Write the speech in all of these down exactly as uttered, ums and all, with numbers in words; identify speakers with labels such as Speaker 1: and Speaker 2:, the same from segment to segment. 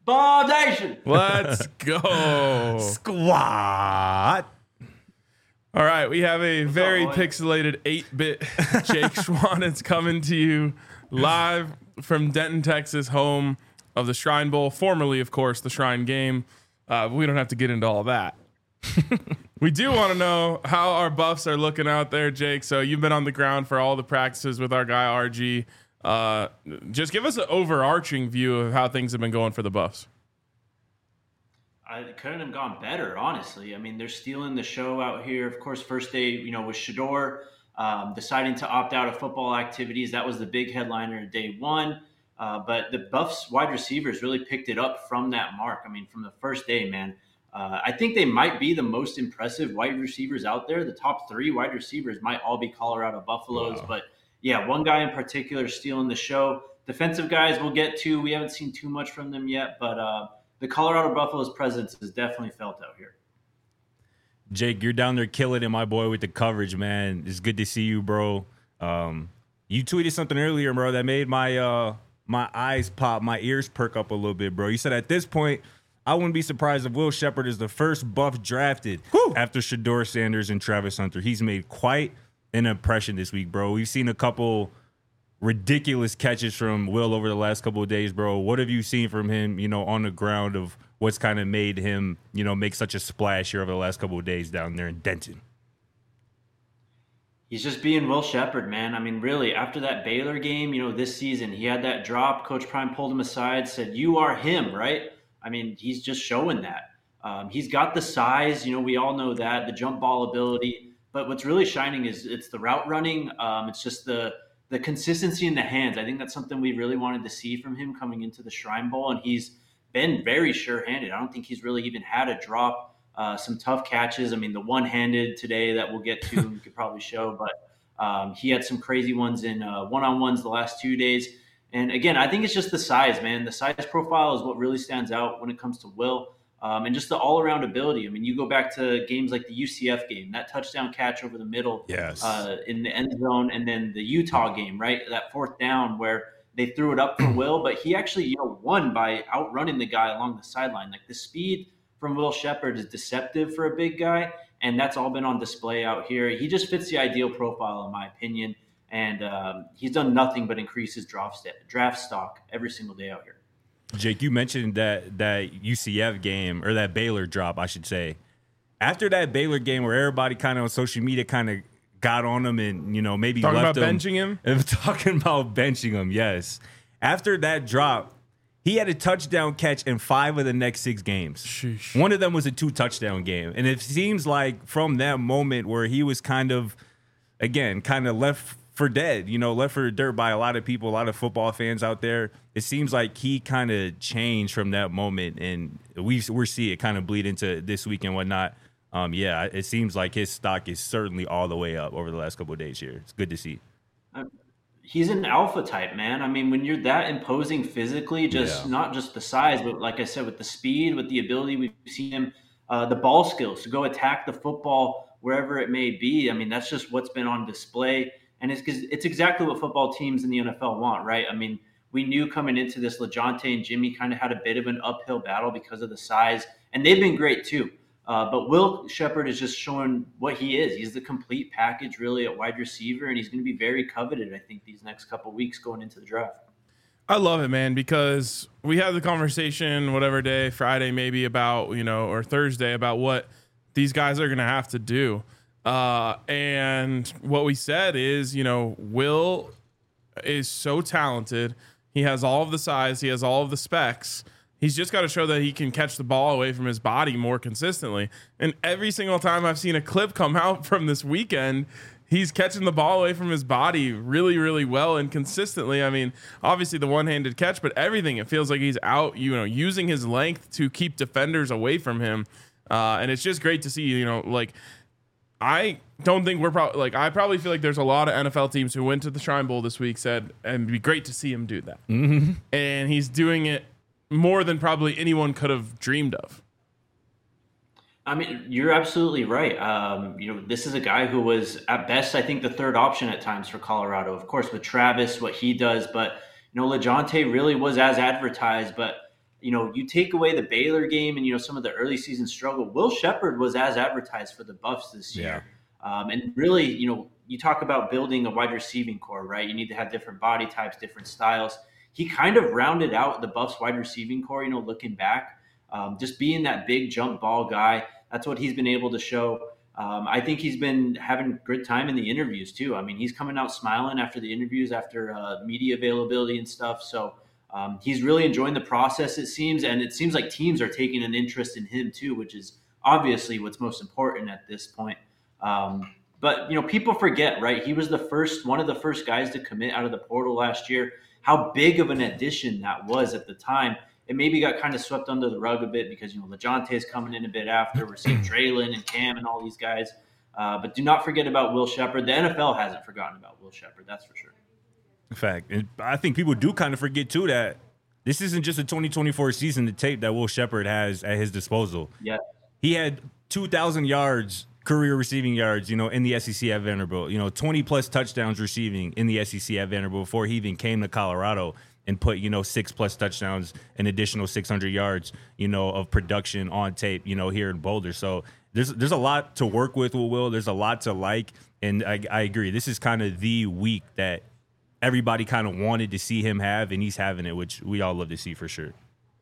Speaker 1: Bob Nation.
Speaker 2: Let's go.
Speaker 3: Squad.
Speaker 2: All right, we have a
Speaker 1: What's
Speaker 2: very
Speaker 1: up, boy?
Speaker 2: pixelated eight-bit Jake Schwan. It's coming to you live from Denton, Texas, home of the Shrine Bowl, formerly, of course, the Shrine Game. Uh, we don't have to get into all that. We do want to know how our Buffs are looking out there, Jake. So you've been on the ground for all the practices with our guy R G. Uh, just give us an overarching view of how things have been going for the Buffs.
Speaker 1: I couldn't have gone better, honestly. I mean, they're stealing the show out here. Of course, first day, you know, with Shedeur um, deciding to opt out of football activities. That was the big headliner day one. Uh, but the Buffs wide receivers really picked it up from that mark. I mean, from the first day, man. Uh, I think they might be the most impressive wide receivers out there. The top three wide receivers might all be Colorado Buffaloes.
Speaker 2: Wow.
Speaker 1: But, yeah, one guy in particular stealing the show. Defensive guys we'll get to. We haven't seen too much from them yet, but uh, – the Colorado Buffaloes' presence is definitely felt out here.
Speaker 3: Jake, you're down there killing it, my boy, with the coverage, man. It's good to see you, bro. Um, you tweeted something earlier, bro, that made my uh, my eyes pop, my ears perk up a little bit, bro. You said at this point, I wouldn't be surprised if Will Shepherd is the first Buff drafted Whew. after Shedeur Sanders and Travis Hunter. He's made quite an impression this week, bro. We've seen a couple ridiculous catches from Will over the last couple of days, bro. What have you seen from him, you know, on the ground of what's kind of made him, you know, make such a splash here over the last couple of days down there in Denton?
Speaker 1: He's just being Will Shepherd, man. I mean, really, after that Baylor game, you know, this season, he had that drop. Coach Prime pulled him aside, said, you are him, right? I mean, he's just showing that. Um, he's got the size, you know, we all know that, the jump ball ability. But what's really shining is it's the route running. Um, it's just the The consistency in the hands. I think that's something we really wanted to see from him coming into the Shrine Bowl, and he's been very sure-handed. I don't think he's really even had a drop, uh, some tough catches. I mean, the one-handed today that we'll get to, we could probably show, but um, he had some crazy ones in uh, one-on-ones the last two days. And again, I think it's just the size, man. The size profile is what really stands out when it comes to Will. Um, and just the all-around ability. I mean, you go back to games like the U C F game, that touchdown catch over the middle
Speaker 3: Yes.
Speaker 1: uh, in the end zone, and then the Utah game, right? That fourth down where they threw it up for Will, but he actually, you know, won by outrunning the guy along the sideline. Like the speed from Will Shepherd is deceptive for a big guy, and that's all been on display out here. He just fits the ideal profile, in my opinion, and um, he's done nothing but increase his draft, st- draft stock every single day out here.
Speaker 3: Jake, you mentioned that that U C F game, or that Baylor drop, I should say. After that Baylor game where everybody kind of on social media kind of got on him and, you know, maybe
Speaker 2: Talking
Speaker 3: left
Speaker 2: about
Speaker 3: him.
Speaker 2: benching him?
Speaker 3: Talking about benching him, yes. After that drop, he had a touchdown catch in five of the next six games.
Speaker 2: Sheesh.
Speaker 3: One of them was a two-touchdown game. And it seems like from that moment where he was kind of, again, kind of left for dead, you know, left for dirt by a lot of people, a lot of football fans out there. It seems like he kind of changed from that moment, and we we're seeing it kind of bleed into this week and whatnot. Um, yeah, it seems like his stock is certainly all the way up over the last couple of days here. It's good to see.
Speaker 1: He's an alpha type, man. I mean, when you're that imposing physically, just
Speaker 3: Yeah.
Speaker 1: not just the size, but like I said, with the speed, with the ability, we've seen him, uh, the ball skills to go attack the football wherever it may be. I mean, that's just what's been on display. And it's it's exactly what football teams in the N F L want, right? I mean, we knew coming into this, LeJounte and Jimmy kind of had a bit of an uphill battle because of the size, and they've been great too. Uh, but Will Shepherd is just showing what he is. He's the complete package, really, at wide receiver, and he's going to be very coveted, I think, these next couple of weeks going into the draft.
Speaker 2: I love it, man, because we had the conversation, whatever day, Friday maybe, about, you know, or Thursday, about what these guys are going to have to do. Uh, and what we said is, you know, Will is so talented. He has all of the size. He has all of the specs. He's just got to show that he can catch the ball away from his body more consistently. And every single time I've seen a clip come out from this weekend, he's catching the ball away from his body really, really well and consistently. I mean, obviously the one-handed catch, but everything, it feels like he's out, you know, using his length to keep defenders away from him. Uh, and it's just great to see, you know, like, I don't think we're probably like, I probably feel like there's a lot of N F L teams who went to the Shrine Bowl this week said, and it'd be great to see him do that.
Speaker 3: Mm-hmm.
Speaker 2: And he's doing it more than probably anyone could have dreamed of.
Speaker 1: I mean, you're absolutely right. Um, you know, this is a guy who was at best, I think, the third option at times for Colorado. Of course, with Travis, what he does, but you know, LeJounte really was as advertised. But you know, you take away the Baylor game and, you know, some of the early season struggle, Will Sheppard was as advertised for the Buffs this year. Yeah. Um, and really, you know, you talk about building a wide receiving core, right? You need to have different body types, different styles. He kind of rounded out the Buffs wide receiving core, you know, looking back, um, just being that big jump ball guy. That's what he's been able to show. Um, I think he's been having good time in the interviews too. I mean, he's coming out smiling after the interviews, after uh, media availability and stuff. So um, he's really enjoying the process, it seems. And it seems like teams are taking an interest in him too, which is obviously what's most important at this point. Um, but, you know, people forget, right? He was the first, one of the first guys to commit out of the portal last year. How big of an addition that was at the time. It maybe got kind of swept under the rug a bit because, you know, LeJounte is coming in a bit after. We're seeing Draylon and Cam and all these guys. Uh, but do not forget about Will Sheppard. The N F L hasn't forgotten about Will Sheppard, that's for sure.
Speaker 3: In fact, and I think people do kind of forget, too, that this isn't just a twenty twenty-four season to tape that Will Sheppard has at his disposal.
Speaker 1: Yeah.
Speaker 3: He had two thousand yards, career receiving yards, you know, in the S E C at Vanderbilt. You know, twenty-plus touchdowns receiving in the S E C at Vanderbilt before he even came to Colorado. And put, you know, six plus touchdowns, an additional six hundred yards, you know, of production on tape, you know, here in Boulder. So there's there's a lot to work with with Will. There's a lot to like. And I, I agree. This is kind of the week that everybody kind of wanted to see him have, and he's having it, which we all love to see for sure.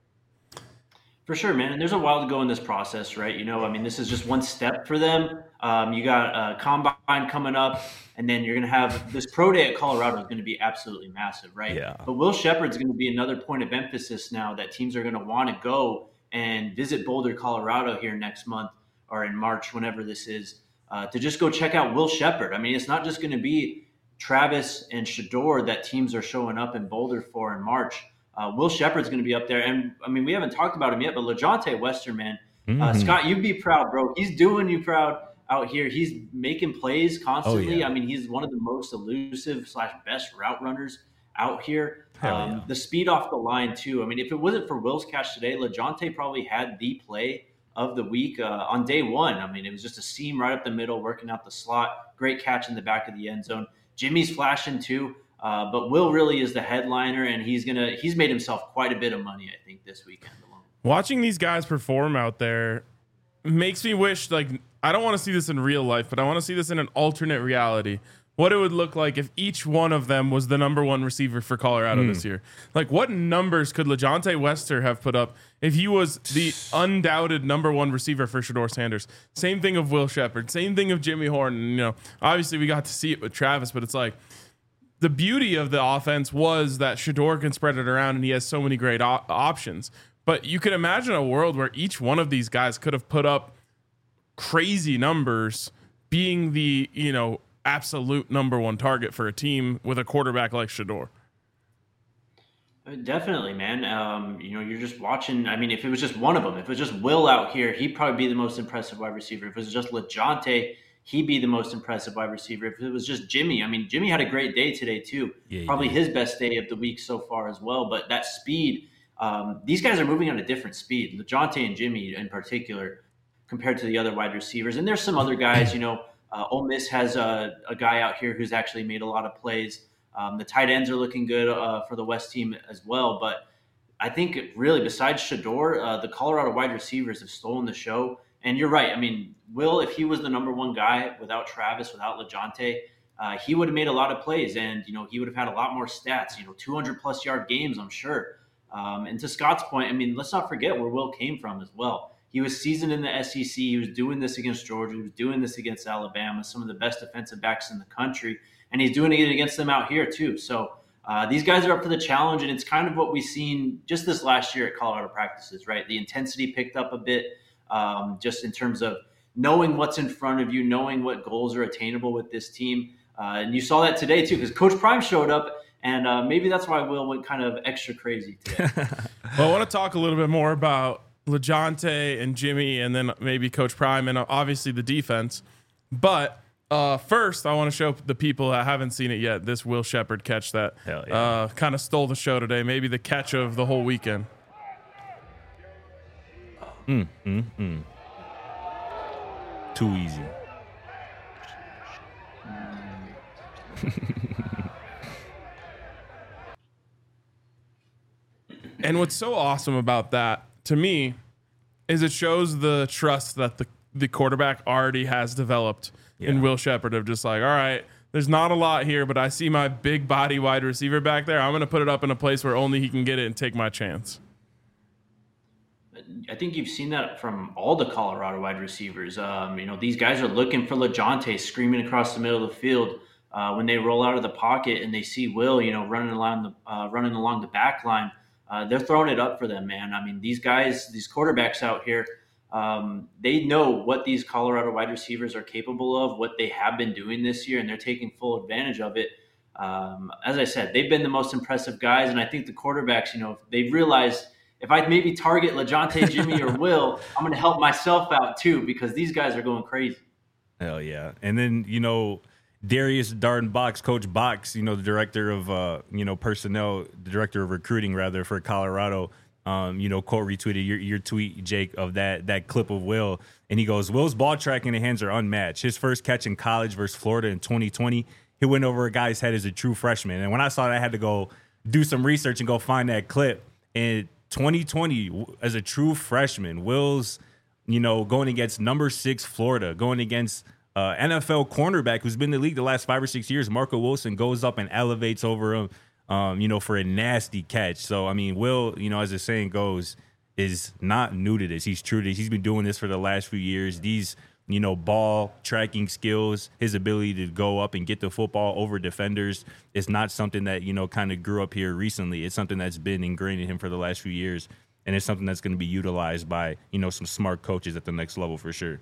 Speaker 1: For sure, man. And there's a while to go in this process, right? You know, I mean, this is just one step for them. Um, you got a combine coming up, and then you're going to have this pro day at Colorado is going to be absolutely massive, right?
Speaker 3: Yeah.
Speaker 1: But Will Sheppard's going to be another point of emphasis now that teams are going to want to go and visit Boulder, Colorado here next month or in March, whenever this is, uh, to just go check out Will Sheppard. I mean, it's not just going to be Travis and Shedeur that teams are showing up in Boulder for in March. Uh, Will Sheppard's going to be up there. And, I mean, we haven't talked about him yet, but LeJounte Wester, man. Mm-hmm. Uh, Scott, you'd be proud, bro. He's doing you proud out here. He's making plays constantly. Oh, yeah. I mean, he's one of the most elusive slash best route runners out here. Um, yeah. The speed off the line, too. I mean, if it wasn't for Will's catch today, LeJounte probably had the play of the week uh, on day one. I mean, it was just a seam right up the middle, working out the slot. Great catch in the back of the end zone. Jimmy's flashing, too. Uh, but Will really is the headliner, and he's gonna he's made himself quite a bit of money, I think, this weekend alone.
Speaker 2: Watching these guys perform out there makes me wish, like, I don't want to see this in real life, but I want to see this in an alternate reality. What it would look like if each one of them was the number one receiver for Colorado mm. this year. Like, what numbers could LeJounte Wester have put up if he was the undoubted number one receiver for Shedeur Sanders? Same thing of Will Sheppard. Same thing of Jimmy Horn. You know, obviously we got to see it with Travis, but it's like, the beauty of the offense was that Shedeur can spread it around and he has so many great op- options. But you can imagine a world where each one of these guys could have put up crazy numbers being the, you know, absolute number one target for a team with a quarterback like Shedeur.
Speaker 1: Definitely, man. Um, you know, you're just watching. I mean, if it was just one of them, if it was just Will out here, he'd probably be the most impressive wide receiver. If it was just LeJounte, he'd be the most impressive wide receiver. If it was just Jimmy, I mean, Jimmy had a great day today too. Yeah, Probably did. His best day of the week so far as well. But that speed, um, these guys are moving at a different speed. LeJounte and Jimmy in particular, compared to the other wide receivers. And there's some other guys, you know, uh, Ole Miss has a, a guy out here who's actually made a lot of plays. Um, the tight ends are looking good uh, for the West team as well. But I think really besides Shedeur, uh, the Colorado wide receivers have stolen the show. And you're right. I mean, Will, if he was the number one guy without Travis, without LeJounte, uh, he would have made a lot of plays, and you know he would have had a lot more stats. You know, two hundred plus yard games, I'm sure. Um, and to Scott's point, I mean, let's not forget where Will came from as well. He was seasoned in the S E C. He was doing this against Georgia. He was doing this against Alabama, some of the best defensive backs in the country, and he's doing it against them out here too. So uh, these guys are up for the challenge, and it's kind of what we've seen just this last year at Colorado practices, right? The intensity picked up a bit. Um, just in terms of knowing what's in front of you, knowing what goals are attainable with this team. Uh, and you saw that today too, because Coach Prime showed up, and uh, maybe that's why Will went kind of extra crazy today.
Speaker 2: Well, I want to talk a little bit more about LeJounte and Jimmy, and then maybe Coach Prime, and obviously the defense. But uh, first, I want to show the people that haven't seen it yet this Will Sheppard catch that yeah. uh, kind of stole the show today, maybe the catch of the whole weekend.
Speaker 3: Mm, mm, mm. Too easy.
Speaker 2: And what's so awesome about that, to me, is it shows the trust that the, the quarterback already has developed yeah. in Will Sheppard of just like, all right, there's not a lot here, but I see my big body wide receiver back there. I'm going to put it up in a place where only he can get it and take my chance.
Speaker 1: I think you've seen that from all the Colorado wide receivers. Um, you know, these guys are looking for LeJontay screaming across the middle of the field uh, when they roll out of the pocket and they see Will, you know, running along the uh, running along the back line. Uh, they're throwing it up for them, man. I mean, these guys, these quarterbacks out here, um, they know what these Colorado wide receivers are capable of, what they have been doing this year, and they're taking full advantage of it. Um, as I said, they've been the most impressive guys, and I think the quarterbacks, you know, they've realized if I maybe target LeJontay, Jimmy, or Will, I'm going to help myself out too because these guys are going crazy.
Speaker 3: Hell yeah. And then, you know, Darius Darden Box, Coach Box, you know, the director of, uh, you know, personnel, the director of recruiting, rather, for Colorado, um, you know, quote retweeted your, your tweet, Jake, of that that clip of Will. And he goes, Will's ball tracking and hands are unmatched. His first catch in college versus Florida in twenty twenty, he went over a guy's head as a true freshman. And when I saw that, I had to go do some research and go find that clip. And twenty twenty, as a true freshman, Will's, you know, going against number six Florida, going against uh, N F L cornerback who's been in the league the last five or six years, Marco Wilson, goes up and elevates over him, um, you know, for a nasty catch. So, I mean, Will, you know, as the saying goes, is not new to this. He's true to this. He's been doing this for the last few years. These, you know, ball tracking skills, his ability to go up and get the football over defenders is not something that, you know, kind of grew up here recently. It's something that's been ingrained in him for the last few years, and it's something that's going to be utilized by, you know, some smart coaches at the next level for sure.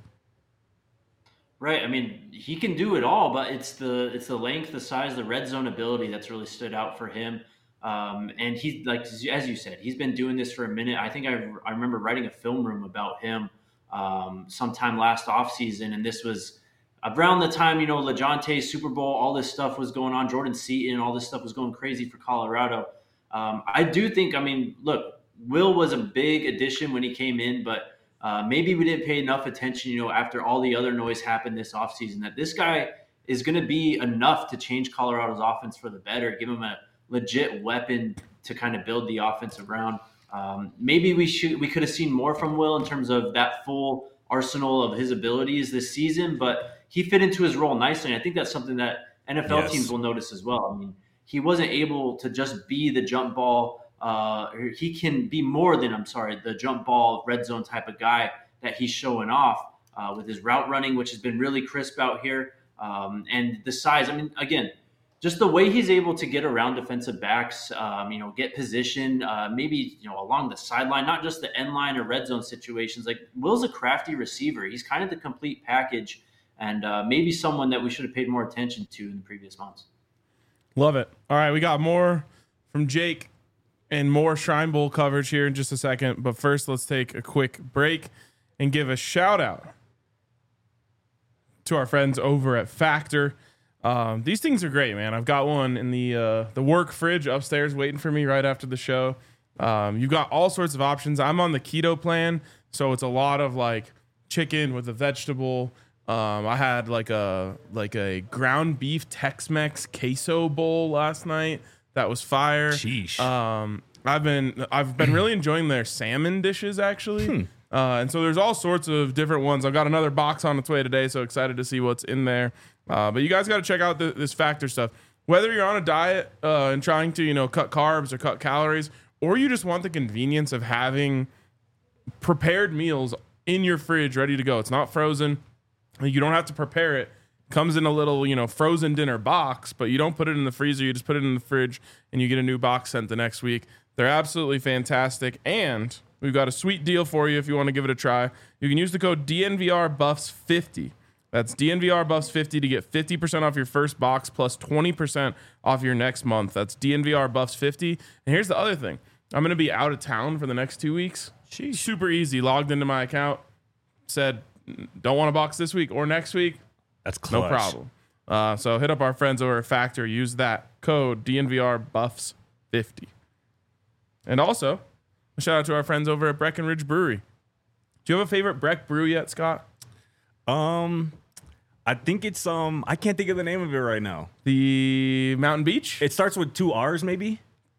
Speaker 1: Right. I mean, he can do it all, but it's the it's the length, the size, the red zone ability that's really stood out for him. Um, and he's, like, as you said, he's been doing this for a minute. I think I, I remember writing a film room about him um, sometime last offseason, and this was around the time, you know, LeJontay, Super Bowl, all this stuff was going on, Jordan Seaton, all this stuff was going crazy for Colorado. Um, I do think, I mean, look, Will was a big addition when he came in, but uh, maybe we didn't pay enough attention, you know, after all the other noise happened this offseason, that this guy is going to be enough to change Colorado's offense for the better, give him a legit weapon to kind of build the offense around. Um, maybe we should we could have seen more from Will in terms of that full arsenal of his abilities this season, but he fit into his role nicely. And I think that's something that N F L yes. teams will notice as well. I mean, he wasn't able to just be the jump ball. Uh, he can be more than, I'm sorry, the jump ball, red zone type of guy that he's showing off uh, with his route running, which has been really crisp out here. Um, and the size, I mean, again, just the way he's able to get around defensive backs, um, you know, get position, uh, maybe, you know, along the sideline, not just the end line or red zone situations. Like, Will's a crafty receiver. He's kind of the complete package, and uh, maybe someone that we should have paid more attention to in the previous months.
Speaker 2: Love it. All right, we got more from Jake and more Shrine Bowl coverage here in just a second. But first, let's take a quick break and give a shout out to our friends over at Factor. Um, these things are great, man. I've got one in the uh, the work fridge upstairs waiting for me right after the show. Um, you've got all sorts of options. I'm on the keto plan, so it's a lot of like chicken with a vegetable. Um, I had like a like a ground beef Tex-Mex queso bowl last night. That was fire.
Speaker 3: Sheesh.
Speaker 2: Um, I've been I've been really enjoying their salmon dishes actually. Hmm. Uh, and so there's all sorts of different ones. I've got another box on its way today, so excited to see what's in there. Uh, but you guys got to check out the, this Factor stuff. Whether you're on a diet uh, and trying to, you know, cut carbs or cut calories, or you just want the convenience of having prepared meals in your fridge ready to go. It's not frozen. You don't have to prepare it. Comes in a little, you know, frozen dinner box, but you don't put it in the freezer. You just put it in the fridge, and you get a new box sent the next week. They're absolutely fantastic, and we've got a sweet deal for you if you want to give it a try. You can use the code D N V R Buffs fifty. That's D N V R Buffs fifty to get fifty percent off your first box plus twenty percent off your next month. That's D N V R Buffs fifty. And here's the other thing. I'm going to be out of town for the next two weeks. Jeez. Super easy. Logged into my account. Said, don't want a box this week or next week.
Speaker 3: That's clutch.
Speaker 2: No problem. Uh, so hit up our friends over at Factor. Use that code D N V R Buffs fifty. And also, a shout out to our friends over at Breckenridge Brewery. Do you have a favorite Breck brew yet, Scott?
Speaker 3: Um, I think it's um. I can't think of the name of it right now.
Speaker 2: The Mountain Beach.
Speaker 3: It starts with two R's, maybe.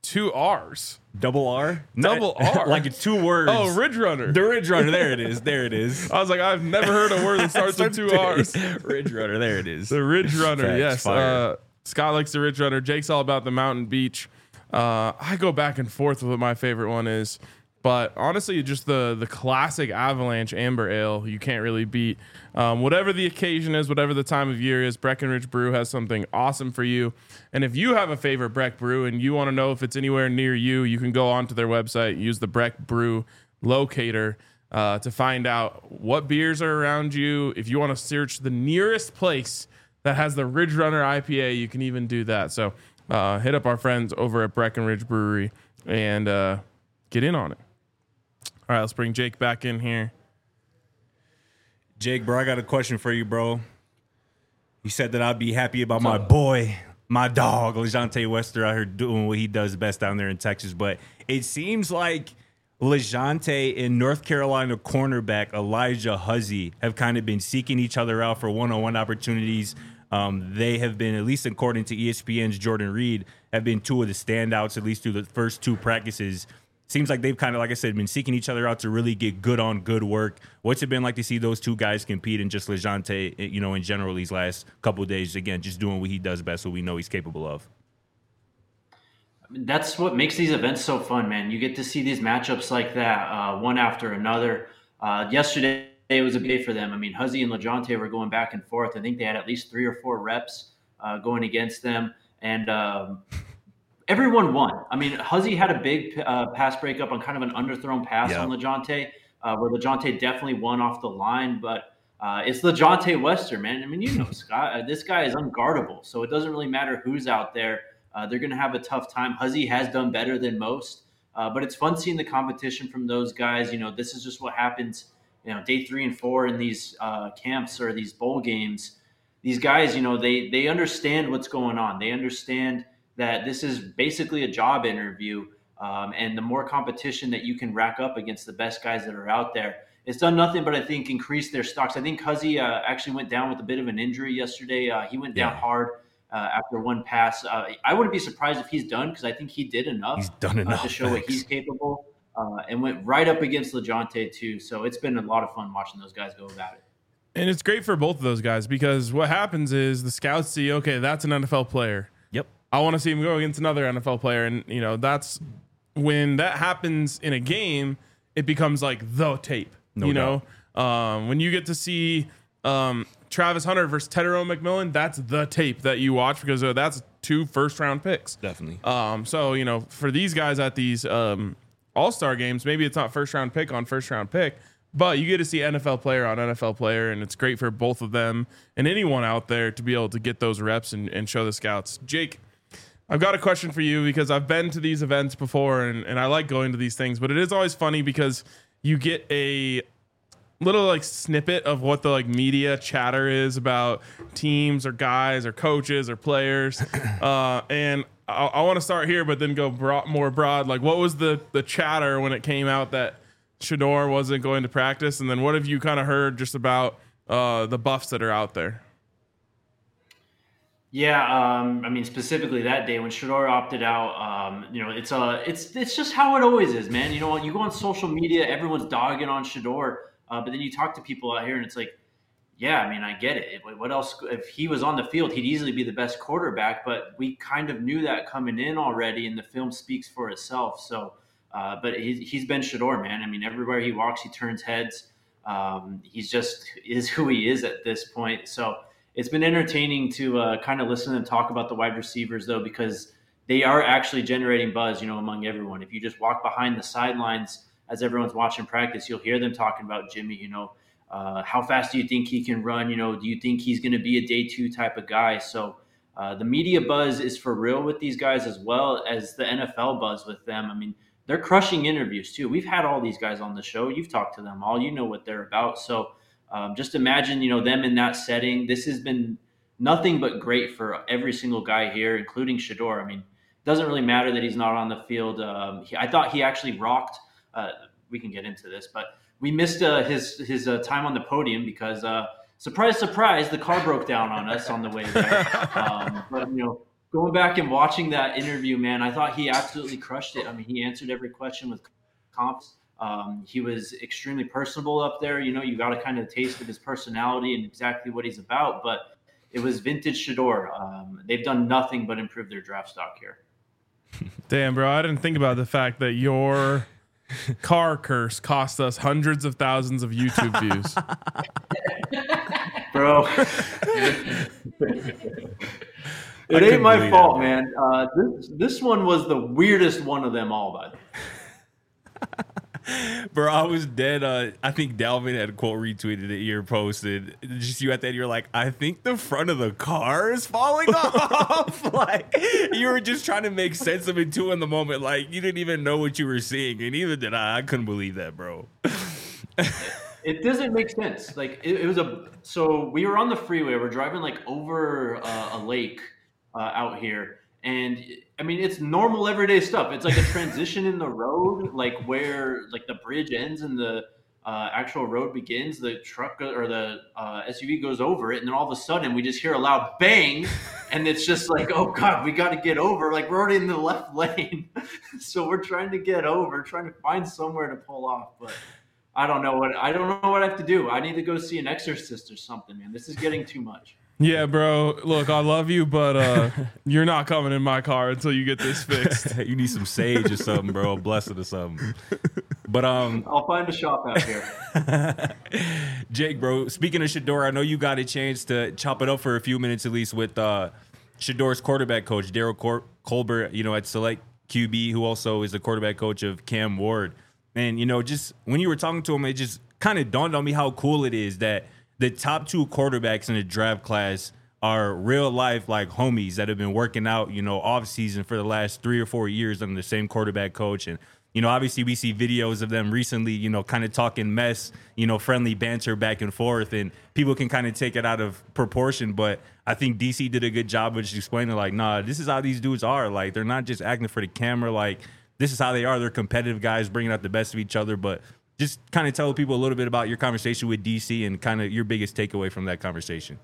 Speaker 2: two R's.
Speaker 3: Double R?
Speaker 2: Double R.
Speaker 3: Like it's two words.
Speaker 2: Oh, Ridge Runner.
Speaker 3: The Ridge Runner. There it is. There it is.
Speaker 2: I was like, I've never heard a word that starts with two R's.
Speaker 3: Ridge Runner. There it is.
Speaker 2: The Ridge Runner.
Speaker 3: Facts,
Speaker 2: Yes. Uh, Scott likes the Ridge Runner. Jake's all about the Mountain Beach. Uh, I go back and forth with what my favorite one is. But honestly, just the the classic Avalanche Amber Ale, you can't really beat. Um, whatever the occasion is, whatever the time of year is, Breckenridge Brew has something awesome for you. And if you have a favorite Breck Brew and you want to know if it's anywhere near you, you can go onto their website, use the Breck Brew locator uh, to find out what beers are around you. If you want to search the nearest place that has the Ridge Runner I P A, you can even do that. So uh, hit up our friends over at Breckenridge Brewery and uh, get in on it. All right, let's bring Jake back in here.
Speaker 3: Jake, bro, I got a question for you, bro. You said that I'd be happy about my boy, my dog, LeJontay Wester out here doing what he does best down there in Texas. But it seems like LeJontay and North Carolina cornerback Elijah Huzzie have kind of been seeking each other out for one-on-one opportunities. Um, they have been, at least according to E S P N's Jordan Reed, have been two of the standouts, at least through the first two practices. Seems like they've kind of, like I said, been seeking each other out to really get good on good work. What's it been like to see those two guys compete and just LeJontay, you know, in general these last couple of days, again, just doing what he does best, what we know he's capable of?
Speaker 1: I mean, that's what makes these events so fun, man. You get to see these matchups like that, uh, one after another. Uh, yesterday, it was a big day for them. I mean, Huzzie and LeJontay were going back and forth. I think they had at least three or four reps uh, going against them. And um, everyone won. I mean, Huzzie had a big uh, pass breakup on kind of an underthrown pass
Speaker 3: yep.
Speaker 1: on LeJontay, uh, where LeJontay definitely won off the line. But uh, it's LeJontay Wester, man. I mean, you know, Scott, uh, this guy is unguardable. So it doesn't really matter who's out there. Uh, they're going to have a tough time. Huzzie has done better than most. Uh, but it's fun seeing the competition from those guys. You know, this is just what happens, you know, day three and four in these uh, camps or these bowl games. These guys, you know, they they understand what's going on. They understand that this is basically a job interview, um, and the more competition that you can rack up against the best guys that are out there, it's done nothing but, I think, increase their stocks. I think Huzzie uh, actually went down with a bit of an injury yesterday. Uh, he went down yeah. hard uh, after one pass. Uh, I wouldn't be surprised if he's done, because I think he did enough,
Speaker 3: he's done enough
Speaker 1: uh, to show
Speaker 3: thanks.
Speaker 1: what he's capable, uh, and went right up against LeJontay too. So it's been a lot of fun watching those guys go about it.
Speaker 2: And it's great for both of those guys, because what happens is the scouts see, okay, that's an N F L player.
Speaker 3: Yep.
Speaker 2: I want to see him go against another N F L player. And, you know, that's when that happens in a game, it becomes like the tape,
Speaker 3: no
Speaker 2: you
Speaker 3: doubt.
Speaker 2: know, um, when you get to see um, Travis Hunter versus Tedero McMillan, that's the tape that you watch, because uh, that's two first round picks.
Speaker 3: Definitely.
Speaker 2: Um, so, you know, for these guys at these um, all-star games, maybe it's not first round pick on first round pick, but you get to see N F L player on N F L player, and it's great for both of them and anyone out there to be able to get those reps and, and show the scouts. Jake, I've got a question for you, because I've been to these events before, and, and I like going to these things, but it is always funny because you get a little like snippet of what the like media chatter is about teams or guys or coaches or players. Uh, and I, I want to start here, but then go broad, more broad. Like, what was the, the chatter when it came out that Shedeur wasn't going to practice? And then what have you kind of heard just about uh, the Buffs that are out there?
Speaker 1: Yeah, um, I mean, specifically that day when Shedeur opted out, um, you know, it's uh, it's it's just how it always is, man. You know, when you go on social media, everyone's dogging on Shedeur, uh, but then you talk to people out here, and it's like, yeah, I mean, I get it. What else? If he was on the field, he'd easily be the best quarterback, but we kind of knew that coming in already, and the film speaks for itself. So, uh, but he's, he's been Shedeur, man. I mean, everywhere he walks, he turns heads. Um, he's just is who he is at this point. So it's been entertaining to uh, kind of listen and talk about the wide receivers, though, because they are actually generating buzz, you know, among everyone. If you just walk behind the sidelines as everyone's watching practice, you'll hear them talking about Jimmy, you know, uh, how fast do you think he can run? You know, do you think he's going to be a day two type of guy? So uh, the media buzz is for real with these guys, as well as the N F L buzz with them. I mean, they're crushing interviews too. We've had all these guys on the show. You've talked to them all. You know what they're about. So Um, just imagine, you know, them in that setting. This has been nothing but great for every single guy here, including Shedeur. I mean, it doesn't really matter that he's not on the field. Um, he, I thought he actually rocked. Uh, we can get into this, but we missed uh, his his uh, time on the podium because, uh, surprise, surprise, the car broke down on us on the way there. Um, but, you know, going back and watching that interview, man, I thought he absolutely crushed it. I mean, he answered every question with confidence. Um, he was extremely personable up there. You know, you got a kind of taste of his personality and exactly what he's about. But it was vintage Shedeur. Um, they've done nothing but improve their draft stock here.
Speaker 2: Damn, bro, I didn't think about the fact that your car curse cost us hundreds of thousands of YouTube views.
Speaker 1: Bro. It ain't my fault, that, man. Uh, this this one was the weirdest one of them all, by the way.
Speaker 3: Bro, I was dead. Uh, I think Dalvin had quote retweeted it. You're posted. Just you at that. You're like, I think the front of the car is falling off. Like you were just trying to make sense of it too in the moment. Like you didn't even know what you were seeing, and neither did I. I couldn't believe that, bro.
Speaker 1: It doesn't make sense. Like it, it was a. So we were on the freeway. We're driving like over uh, a lake uh, out here. And I mean, it's normal everyday stuff. It's like a transition in the road, like where like the bridge ends and the uh, actual road begins. The truck or the uh, S U V goes over it, and then all of a sudden we just hear a loud bang, and it's just like, oh god, we got to get over. Like we're already in the left lane, so we're trying to get over, trying to find somewhere to pull off. But I don't know what I don't know what I have to do. I need to go see an exorcist or something, man. This is getting too much.
Speaker 2: Yeah, bro. Look, I love you, but uh, you're not coming in my car until you get this fixed.
Speaker 3: You need some sage or something, bro. Blessed or something. But um,
Speaker 1: I'll find a shop out here.
Speaker 3: Jake, bro. Speaking of Shedeur, I know you got a chance to chop it up for a few minutes at least with uh, Shedeur's quarterback coach, Daryl Cor- Colbert. You know, at Select Q B, who also is the quarterback coach of Cam Ward. And you know, just when you were talking to him, it just kind of dawned on me how cool it is that the top two quarterbacks in the draft class are real life like homies that have been working out, you know, off season for the last three or four years under the same quarterback coach. And, you know, obviously we see videos of them recently, you know, kind of talking mess, you know, friendly banter back and forth, and people can kind of take it out of proportion. But I think D C did a good job of just explaining like, nah, this is how these dudes are. Like, they're not just acting for the camera. Like, this is how they are. They're competitive guys bringing out the best of each other. But just kind of tell people a little bit about your conversation with D C and kind of your biggest takeaway from that conversation.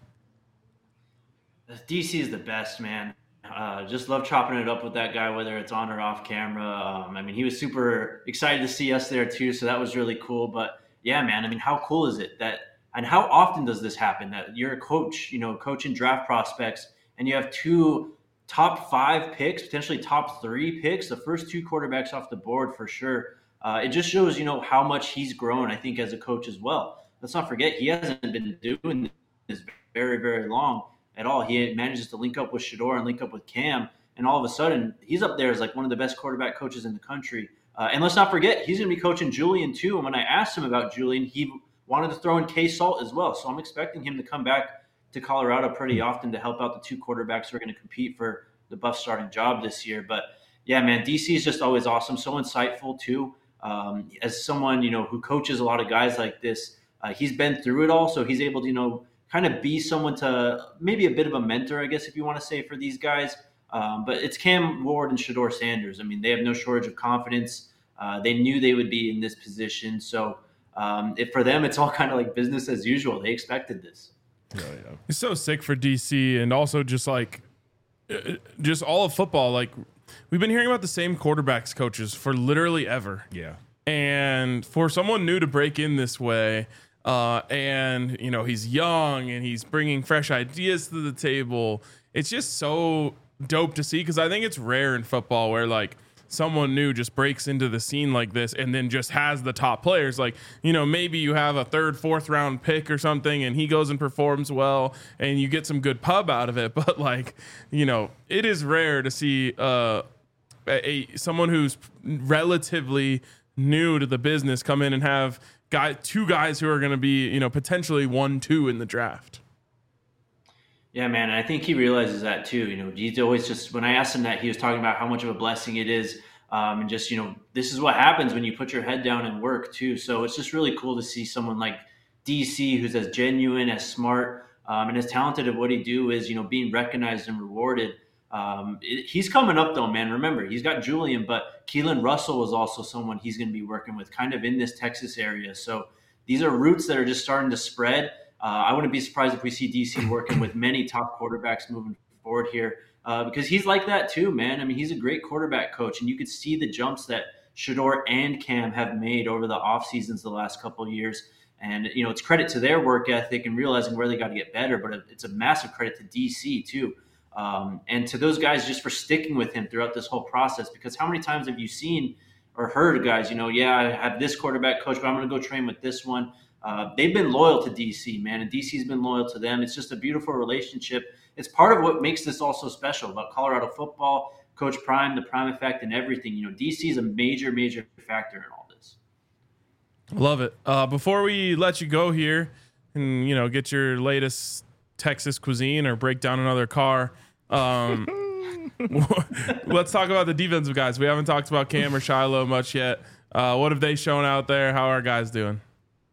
Speaker 1: D C is the best, man. Uh, just love chopping it up with that guy, whether it's on or off camera. Um, I mean, he was super excited to see us there too, so that was really cool. But yeah, man, I mean, how cool is it that, and how often does this happen that you're a coach, you know, coaching draft prospects, and you have two top five picks, potentially top three picks, the first two quarterbacks off the board for sure. Uh, it just shows, you know, how much he's grown, I think, as a coach as well. Let's not forget, he hasn't been doing this very, very long at all. He manages to link up with Shedeur and link up with Cam, and all of a sudden, he's up there as like one of the best quarterback coaches in the country. Uh, and let's not forget, he's going to be coaching Julian too. And when I asked him about Julian, he wanted to throw in K Salt as well. So I'm expecting him to come back to Colorado pretty often to help out the two quarterbacks who are going to compete for the Buff starting job this year. But yeah, man, D C is just always awesome. So insightful too. Um, as someone, you know, who coaches a lot of guys like this, uh, he's been through it all. So he's able to, you know, kind of be someone to maybe a bit of a mentor, I guess, if you want to say, for these guys. Um, but it's Cam Ward and Shedeur Sanders. I mean, they have no shortage of confidence. Uh, they knew they would be in this position. So um, if for them, it's all kind of like business as usual. They expected this.
Speaker 2: Yeah, yeah. It's so sick for D C, and also just like just all of football. Like, we've been hearing about the same quarterbacks coaches for literally ever.
Speaker 3: Yeah.
Speaker 2: And for someone new to break in this way, uh, and, you know, he's young and he's bringing fresh ideas to the table, it's just so dope to see, because I think it's rare in football where, like, someone new just breaks into the scene like this and then just has the top players. Like, you know, maybe you have a third, fourth round pick or something and he goes and performs well and you get some good pub out of it. But, like, you know, it is rare to see uh, a, a someone who's relatively new to the business come in and have guy two guys who are going to be, you know, potentially one, two in the draft.
Speaker 1: Yeah, man. And I think he realizes that too. You know, he's always just, when I asked him that, he was talking about how much of a blessing it is. Um, and just, you know, this is what happens when you put your head down and work too. So it's just really cool to see someone like D C, who's as genuine, as smart, um, and as talented at what he do is, you know, being recognized and rewarded. Um, it, he's coming up though, man. Remember, he's got Julian, but Keelan Russell is also someone he's going to be working with kind of in this Texas area. So these are roots that are just starting to spread. Uh, I wouldn't be surprised if we see D C working with many top quarterbacks moving forward here. uh, because he's like that too, man. I mean, he's a great quarterback coach, and you could see the jumps that Shedeur and Cam have made over the off seasons the last couple of years. And, you know, it's credit to their work ethic and realizing where they got to get better, but it's a massive credit to D C too. Um, and to those guys just for sticking with him throughout this whole process, because how many times have you seen or heard guys, you know, yeah, I have this quarterback coach, but I'm going to go train with this one. Uh, they've been loyal to D C, man, and D C's been loyal to them. It's just a beautiful relationship. It's part of what makes this all so special about Colorado football, Coach Prime, the Prime Effect, and everything. You know, D C is a major, major factor in all this.
Speaker 2: Love it. Uh, before we let you go here and, you know, get your latest Texas cuisine or break down another car, um, let's talk about the defensive guys. We haven't talked about Cam or Shiloh much yet. Uh, what have they shown out there? How are guys doing?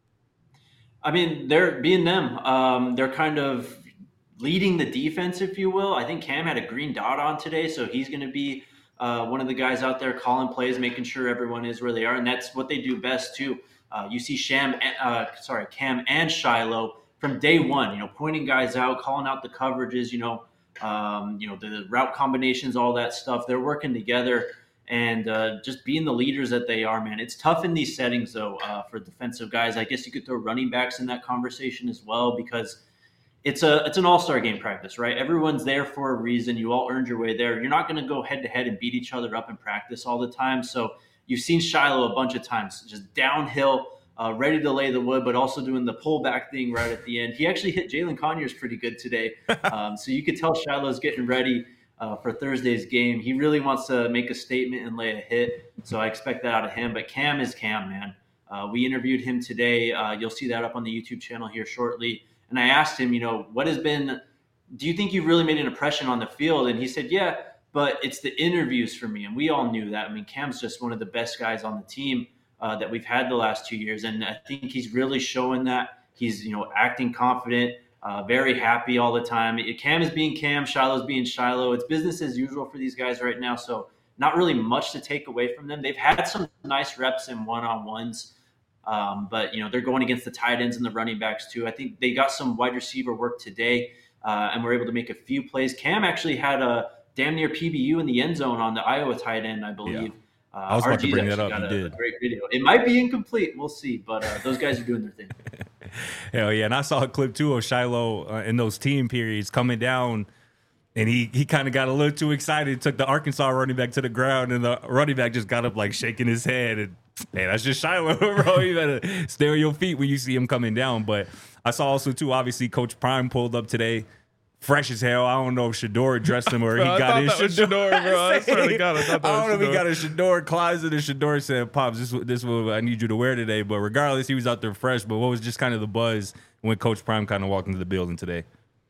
Speaker 1: I mean, they're being them. Um, they're kind of leading the defense, if you will. I think Cam had a green dot on today, so he's going to be uh, one of the guys out there calling plays, making sure everyone is where they are, and that's what they do best too. Uh, you see Sham, uh, sorry, Cam and Shiloh from day one, you know, pointing guys out, calling out the coverages, you know, um, you know, the route combinations, all that stuff. They're working together and uh, just being the leaders that they are, man. It's tough in these settings, though, uh, for defensive guys. I guess you could throw running backs in that conversation as well, because it's a it's an all-star game practice, right? Everyone's there for a reason. You all earned your way there. You're not going to go head-to-head and beat each other up in practice all the time. So you've seen Shiloh a bunch of times, just downhill, uh, ready to lay the wood, but also doing the pullback thing right at the end. He actually hit Jalen Conyers pretty good today. Um, so you could tell Shiloh's getting ready uh, for Thursday's game. He really wants to make a statement and lay a hit. So I expect that out of him. But Cam is Cam, man. Uh, we interviewed him today. Uh, you'll see that up on the YouTube channel here shortly. And I asked him, you know, what has been – do you think you've really made an impression on the field? And he said, yeah, but it's the interviews for me. And we all knew that. I mean, Cam's just one of the best guys on the team uh, that we've had the last two years. And I think he's really showing that. He's, you know, acting confident, uh, very happy all the time. Cam is being Cam. Shiloh's being Shiloh. It's business as usual for these guys right now. So not really much to take away from them. They've had some nice reps in one-on-ones. Um, but, you know, they're going against the tight ends and the running backs, too. I think they got some wide receiver work today uh, and were able to make a few plays. Cam actually had a damn near P B U in the end zone on the Iowa tight end, I believe.
Speaker 3: Yeah. Uh, I was about to bring that up.
Speaker 1: Got
Speaker 3: you
Speaker 1: a,
Speaker 3: did.
Speaker 1: a great video. It might be incomplete. We'll see. But uh, those guys are doing their thing.
Speaker 3: Hell yeah. And I saw a clip, too, of Shiloh uh, in those team periods coming down. And he, he kind of got a little too excited, took the Arkansas running back to the ground, and the running back just got up like shaking his head. And hey, that's just Shiloh, bro. You better stay on your feet when you see him coming down. But I saw also, too, obviously, Coach Prime pulled up today, fresh as hell. I don't know if Shedeur addressed him or
Speaker 2: bro,
Speaker 3: he
Speaker 2: I
Speaker 3: got his
Speaker 2: Shedeur. Shedeur, bro. I swear to God, I thought that
Speaker 3: I don't
Speaker 2: was
Speaker 3: know if he
Speaker 2: Shedeur.
Speaker 3: got a Shedeur closet and Shedeur said, Pops, this, this is what I need you to wear today. But regardless, he was out there fresh. But what was just kind of the buzz when Coach Prime kind of walked into the building today?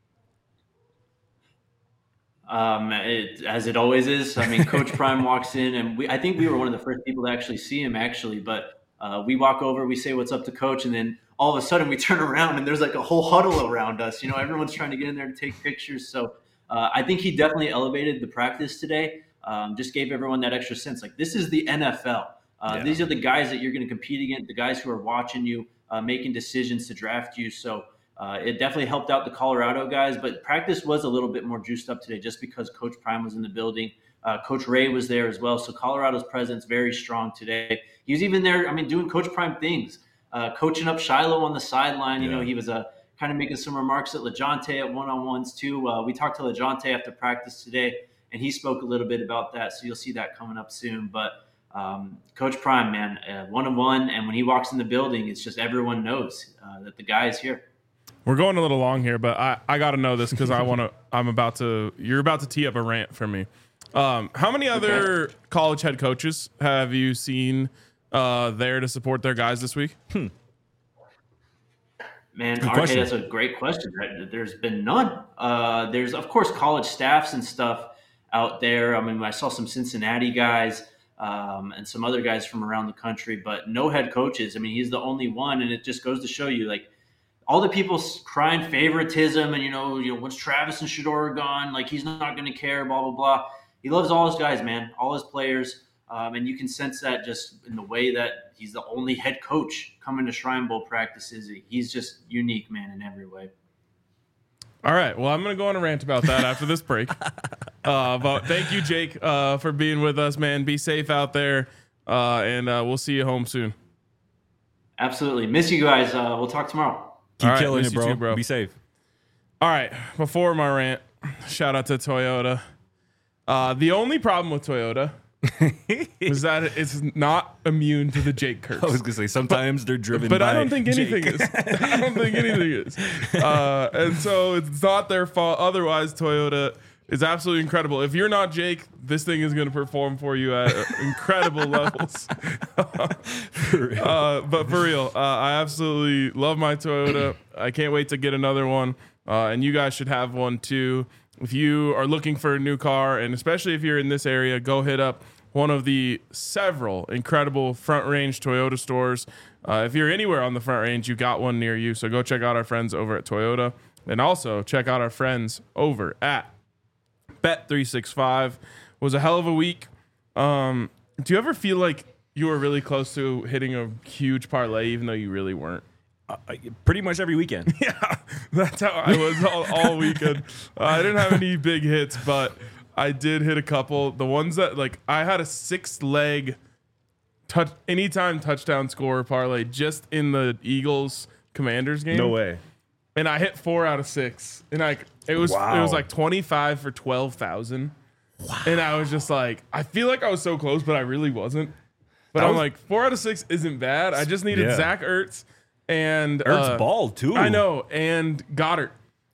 Speaker 1: Um, it, as it always is. I mean, Coach Prime walks in, and we, I think we were one of the first people to actually see him, actually. But uh, we walk over, we say what's up to Coach, and then all of a sudden we turn around, and there's like a whole huddle around us. You know, everyone's trying to get in there to take pictures. So uh, I think he definitely elevated the practice today, um, just gave everyone that extra sense. Like, this is the N F L. Uh,
Speaker 3: Yeah.
Speaker 1: These are the guys that you're going to compete against, the guys who are watching you, uh, making decisions to draft you. So Uh, it definitely helped out the Colorado guys, but practice was a little bit more juiced up today just because Coach Prime was in the building. Uh, Coach Ray was there as well. So Colorado's presence very strong today. He was even there, I mean, doing Coach Prime things, uh, coaching up Shiloh on the sideline. You
Speaker 3: Yeah.
Speaker 1: know, he was uh, kind of making some remarks at LeJohntay at one-on-ones too. Uh, we talked to LeJohntay after practice today, and he spoke a little bit about that. So you'll see that coming up soon. But um, Coach Prime, man, uh, one-on-one, and when he walks in the building, it's just everyone knows uh, that the guy is here.
Speaker 2: We're going a little long here, but I, I got to know this because I want to. I'm about to. You're about to tee up a rant for me. Um, how many other okay. college head coaches have you seen uh, there to support their guys this week?
Speaker 3: Hmm.
Speaker 1: Man, R K, that's a great question. There's been none. Uh, there's, of course, college staffs and stuff out there. I mean, I saw some Cincinnati guys um, and some other guys from around the country, but no head coaches. I mean, he's the only one, and it just goes to show you, like, all the people crying favoritism and, you know, you know, once Travis and Shedeur are gone, like, he's not going to care, blah, blah, blah. He loves all his guys, man, all his players. Um, and you can sense that just in the way that he's the only head coach coming to Shrine Bowl practices. He's just unique, man, in every way.
Speaker 2: All right. Well, I'm going to go on a rant about that after this break. Uh, but thank you, Jake, uh, for being with us, man. Be safe out there, uh, and uh, we'll see you home soon.
Speaker 1: Absolutely. Miss you guys. Uh, we'll talk tomorrow.
Speaker 3: Keep
Speaker 2: right,
Speaker 3: killing
Speaker 2: miss
Speaker 3: it,
Speaker 2: you
Speaker 3: bro.
Speaker 2: too, bro.
Speaker 3: Be safe.
Speaker 2: All right. Before my rant, shout out to Toyota. Uh, the only problem with Toyota was that it's not immune to the Jake curse.
Speaker 3: I was gonna say sometimes they're driven,
Speaker 2: But
Speaker 3: by
Speaker 2: I don't think anything
Speaker 3: Jake.
Speaker 2: is. I don't think anything is. Uh, and so it's not their fault. Otherwise, Toyota is absolutely incredible. If you're not Jake, this thing is going to perform for you at incredible levels.
Speaker 3: For real.
Speaker 2: Uh, but for real, uh, I absolutely love my Toyota. I can't wait to get another one. Uh, and you guys should have one too. If you are looking for a new car, and especially if you're in this area, go hit up one of the several incredible Front Range Toyota stores. Uh, if you're anywhere on the Front Range, you got one near you. So go check out our friends over at Toyota, and also check out our friends over at Bet three sixty-five. It was a hell of a week. Um, do you ever feel like you were really close to hitting a huge parlay, even though you really weren't?
Speaker 3: Uh, pretty much every weekend.
Speaker 2: Yeah, that's how I was all, all weekend. Uh, I didn't have any big hits, but I did hit a couple. The ones that, like, I had a six leg touch anytime touchdown score parlay just in the Eagles Commanders game.
Speaker 3: No way.
Speaker 2: And I hit four out of six. And like it was
Speaker 3: Wow.
Speaker 2: it was like twenty-five for twelve thousand. Wow. And I was just like, I feel like I was so close, but I really wasn't. But
Speaker 3: That
Speaker 2: I'm
Speaker 3: was-
Speaker 2: like, four out of six isn't bad. I just needed
Speaker 3: Yeah.
Speaker 2: Zach Ertz and
Speaker 3: Ertz
Speaker 2: uh,
Speaker 3: balled too.
Speaker 2: I know, and Goddard.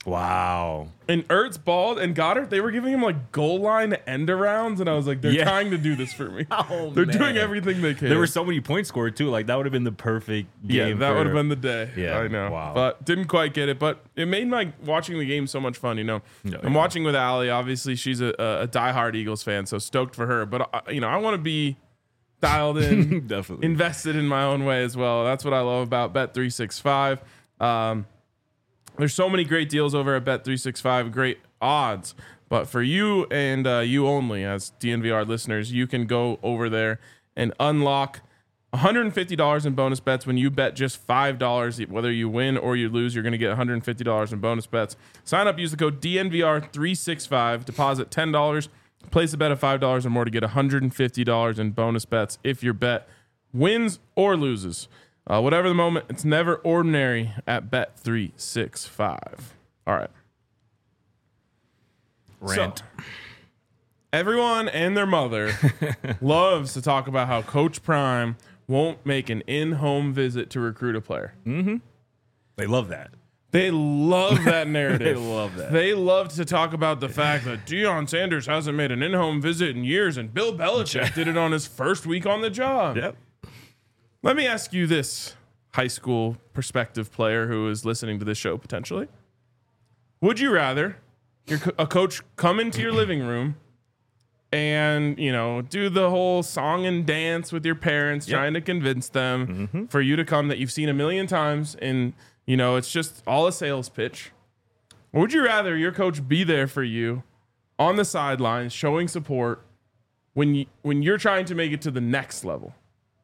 Speaker 3: Wow.
Speaker 2: And Ertz balled and Goddard, they were giving him like goal line end arounds, and I was like, they're
Speaker 3: Yeah.
Speaker 2: trying to do this for me.
Speaker 3: Oh,
Speaker 2: they're
Speaker 3: man.
Speaker 2: doing everything they can.
Speaker 3: There were so many points scored too. Like that would have been the perfect
Speaker 2: yeah,
Speaker 3: game.
Speaker 2: that
Speaker 3: for-
Speaker 2: would have been the day.
Speaker 3: Yeah,
Speaker 2: I know.
Speaker 3: wow.
Speaker 2: But didn't quite get it. But it made my watching the game so much fun. You know,
Speaker 3: No,
Speaker 2: I'm
Speaker 3: yeah.
Speaker 2: watching with Allie. Obviously, she's a, a diehard Eagles fan, so stoked for her. But uh, you know, I want to be dialed in,
Speaker 3: Definitely.
Speaker 2: invested in my own way as well. That's what I love about Bet three sixty-five. Um, there's so many great deals over at Bet three sixty-five, great odds. But for you and uh, you only, as D N V R listeners, you can go over there and unlock one hundred fifty dollars in bonus bets when you bet just five dollars. Whether you win or you lose, you're going to get one hundred fifty dollars in bonus bets. Sign up, use the code D N V R three sixty-five, deposit ten dollars, place a bet of five dollars or more to get one hundred fifty dollars in bonus bets if your bet wins or loses. Uh, whatever the moment, it's never ordinary at Bet three sixty-five. All right.
Speaker 3: Rant.
Speaker 2: So, everyone and their mother loves to talk about how Coach Prime won't make an in-home visit to recruit a player.
Speaker 3: They love that.
Speaker 2: They love that narrative.
Speaker 3: They love that.
Speaker 2: They love to talk about the fact that Deion Sanders hasn't made an in-home visit in years, and Bill Belichick did it on his first week on the job.
Speaker 3: Yep.
Speaker 2: Let me ask you this, high school prospective player who is listening to this show potentially. Would you rather your co- a coach come into your living room and, you know, do the whole song and dance with your parents,
Speaker 3: Yep.
Speaker 2: trying to convince them
Speaker 3: Mm-hmm.
Speaker 2: for you to come that you've seen a million times and, you know, it's just all a sales pitch? Or would you rather your coach be there for you on the sidelines showing support when you, when you're trying to make it to the next level?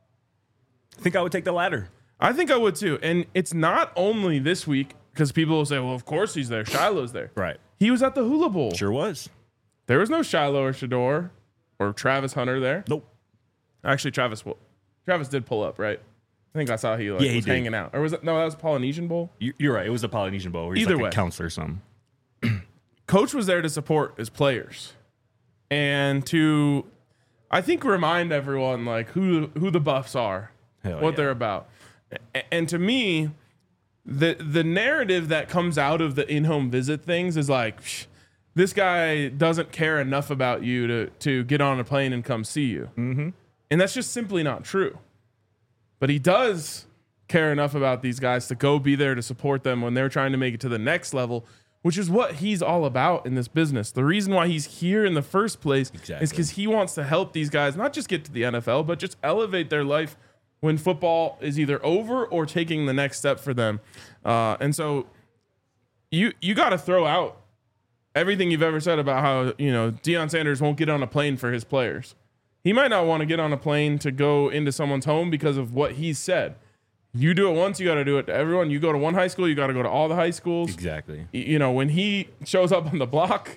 Speaker 3: I think I would take the latter.
Speaker 2: I think I would too. And it's not only this week because people will say, well, of course he's there. Shiloh's there.
Speaker 3: Right.
Speaker 2: He was at the Hula Bowl.
Speaker 3: Sure was.
Speaker 2: There was no Shiloh or Shador or Travis Hunter there.
Speaker 3: Nope.
Speaker 2: Actually, Travis will. Travis did pull up, right? I think I saw he, like,
Speaker 3: Yeah, he
Speaker 2: was
Speaker 3: did.
Speaker 2: hanging out. Or was it? No, that was Polynesian Bowl.
Speaker 3: You- You're right. It was the Polynesian Bowl. Where he's
Speaker 2: Either
Speaker 3: like
Speaker 2: way.
Speaker 3: a counselor or something.
Speaker 2: Coach was there to support his players and to, I think, remind everyone like who who the Buffs are,
Speaker 3: Hell
Speaker 2: what
Speaker 3: yeah.
Speaker 2: they're about. A- And to me, the the narrative that comes out of the in-home visit things is like, "Psh, this guy doesn't care enough about you to to get on a plane and come see you. Mm-hmm. And that's just simply not true. But he does care enough about these guys to go be there to support them when they're trying to make it to the next level, which is what he's all about in this business. The reason why he's here in the first place
Speaker 3: Exactly.
Speaker 2: is because he wants to help these guys not just get to the N F L, but just elevate their life when football is either over or taking the next step for them. Uh, and so you you got to throw out everything you've ever said about how, you know, Deion Sanders won't get on a plane for his players. He might not want to get on a plane to go into someone's home because of what he said. You do it once, you got to do it to everyone. You go to one high school, you got to go to all the high schools.
Speaker 3: Exactly.
Speaker 2: You know, when he shows up on the block,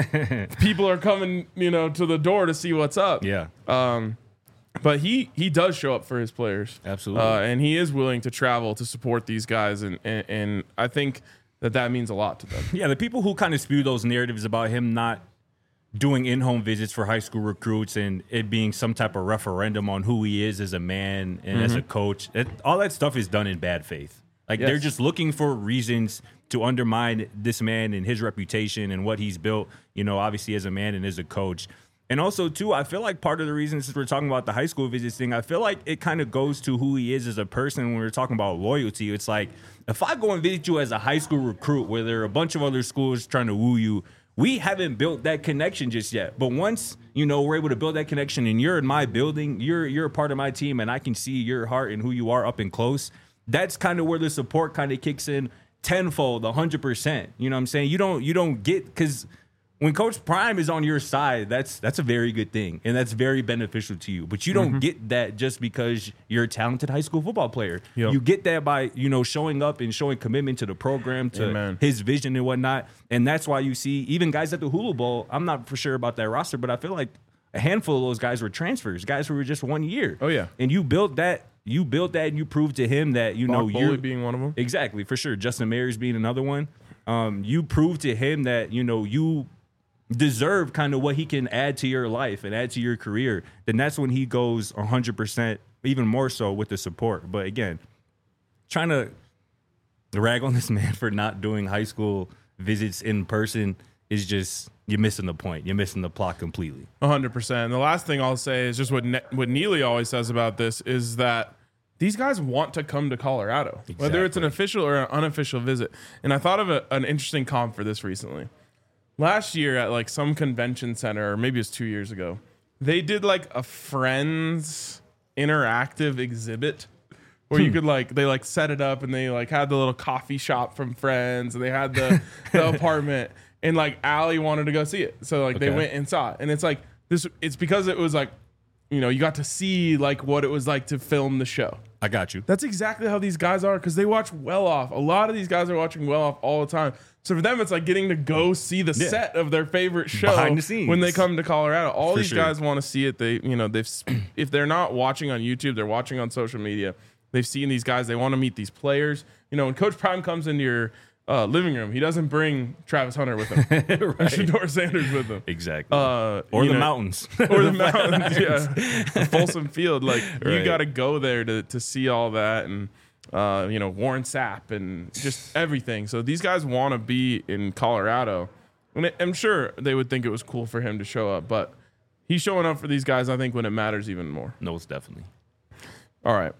Speaker 2: people are coming, you know, to the door to see what's up.
Speaker 3: Yeah.
Speaker 2: Um, but he he does show up for his players.
Speaker 3: Absolutely.
Speaker 2: Uh, and he is willing to travel to support these guys. And, and, and I think that that means a lot to them.
Speaker 3: Yeah, the people who kind of spew those narratives about him not doing in-home visits for high school recruits and it being some type of referendum on who he is as a man and mm-hmm. as a coach, it, all that stuff is done in bad faith. Like yes. they're just looking for reasons to undermine this man and his reputation and what he's built, you know, obviously as a man and as a coach. And also, too, I feel like part of the reason, since we're talking about the high school visits thing, I feel like it kind of goes to who he is as a person when we're talking about loyalty. It's like, if I go and visit you as a high school recruit where there are a bunch of other schools trying to woo you, we haven't built that connection just yet. But once, you know, we're able to build that connection and you're in my building, you're you're a part of my team, and I can see your heart and who you are up and close, that's kind of where the support kind of kicks in tenfold, one hundred percent. You know what I'm saying? You don't you don't get, because when Coach Prime is on your side, that's that's a very good thing, and that's very beneficial to you. But you don't mm-hmm. get that just because you're a talented high school football player. Yep. You get that by, you know, showing up and showing commitment to the program, to Amen. His vision and whatnot. And that's why you see even guys at the Hula Bowl. I'm not for sure about that roster, but I feel like a handful of those guys were transfers, guys who were just one year.
Speaker 2: Oh yeah,
Speaker 3: and you built that. You built that, and you proved to him that you
Speaker 2: Mark
Speaker 3: know you're
Speaker 2: being one of them.
Speaker 3: Exactly, for sure. Justin Mary's being another one. Um, you proved to him that you know you deserve kind of what he can add to your life and add to your career. Then that's when he goes one hundred percent, even more so with the support. But again, trying to rag on this man for not doing high school visits in person is just, you're missing the point. You're missing the plot completely.
Speaker 2: one hundred percent. And the last thing I'll say is just what ne- what Neely always says about this is that these guys want to come to Colorado, exactly. whether it's an official or an unofficial visit. And I thought of a, an interesting comp for this recently. Last year at like some convention center, or maybe it was two years ago, they did like a Friends interactive exhibit where you could like, they like set it up and they like had the little coffee shop from Friends and they had the, the apartment. And like Allie wanted to go see it. So like okay. they went and saw it. And it's like this, it's because it was like, you know, you got to see like what it was like to film the show.
Speaker 3: I got you.
Speaker 2: That's exactly how these guys are, because they watch Well Off. A lot of these guys are watching Well Off all the time. So for them, it's like getting to go see the yeah. set of their favorite show
Speaker 3: behind the scenes
Speaker 2: when they come to Colorado. All for these
Speaker 3: sure.
Speaker 2: guys want to see it. They, you know, they've if they're not watching on YouTube, they're watching on social media. They've seen these guys. They want to meet these players. You know, when Coach Prime comes into your Uh, living room, he doesn't bring Travis Hunter with him, right. Shedeur Sanders with him,
Speaker 3: exactly,
Speaker 2: uh,
Speaker 3: or the
Speaker 2: know,
Speaker 3: mountains,
Speaker 2: or the mountains, yeah, Folsom Field. Like right. you got to go there to to see all that, and uh, you know Warren Sapp and just everything. So these guys want to be in Colorado, and I'm sure they would think it was cool for him to show up, but he's showing up for these guys. I think when it matters even more.
Speaker 3: No, it's definitely.
Speaker 2: All right,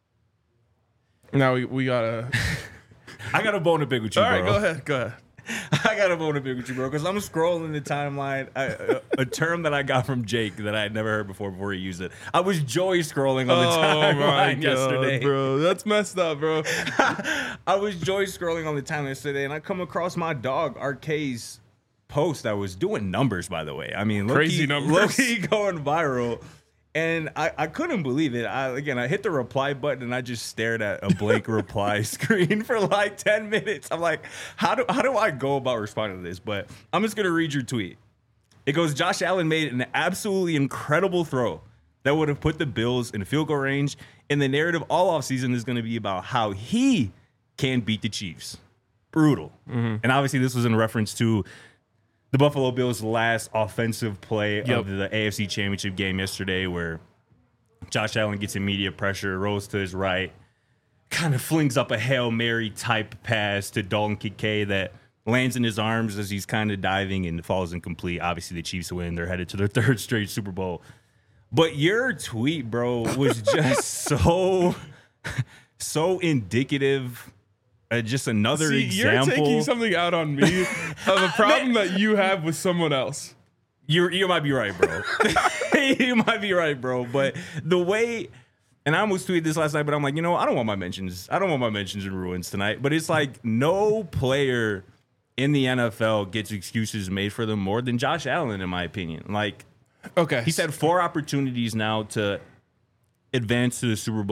Speaker 2: now we we gotta.
Speaker 3: I got a bone to pick with you,
Speaker 2: All
Speaker 3: bro.
Speaker 2: right, go ahead, go ahead.
Speaker 3: I got a bone to pick with you, bro, because I'm scrolling the timeline. I, a, a term that I got from Jake that I had never heard before before he used it. I was joy scrolling on the
Speaker 2: oh
Speaker 3: timeline
Speaker 2: God,
Speaker 3: yesterday,
Speaker 2: bro. That's messed up, bro.
Speaker 3: I was joy scrolling on the timeline yesterday, and I come across my dog Arcade's post that was doing numbers. By the way, I mean
Speaker 2: crazy
Speaker 3: low-key,
Speaker 2: numbers,
Speaker 3: low-key going viral. And I, I couldn't believe it. I again, I hit the reply button and I just stared at a blank reply screen for like ten minutes. I'm like, how do how do I go about responding to this? But I'm just gonna read your tweet. It goes, Josh Allen made an absolutely incredible throw that would have put the Bills in field goal range. And the narrative all offseason is gonna be about how he can beat the Chiefs. Brutal. Mm-hmm. And obviously this was in reference to the Buffalo Bills' last offensive play yep. of the A F C Championship game yesterday, where Josh Allen gets immediate pressure, rolls to his right, kind of flings up a Hail Mary type pass to Dalton Kincaid that lands in his arms as he's kind of diving and falls incomplete. Obviously, the Chiefs win. They're headed to their third straight Super Bowl. But your tweet, bro, was just so, so indicative. Uh, just another
Speaker 2: See,
Speaker 3: example.
Speaker 2: You're taking something out on me of a problem that you have with someone else.
Speaker 3: You you might be right, bro. You might be right, bro. But the way, and I almost tweeted this last night, but I'm like, you know, I don't want my mentions. I don't want my mentions in ruins tonight. But it's like no player in the N F L gets excuses made for them more than Josh Allen, in my opinion. Like,
Speaker 2: okay,
Speaker 3: he's had four opportunities now to advance to the Super Bowl.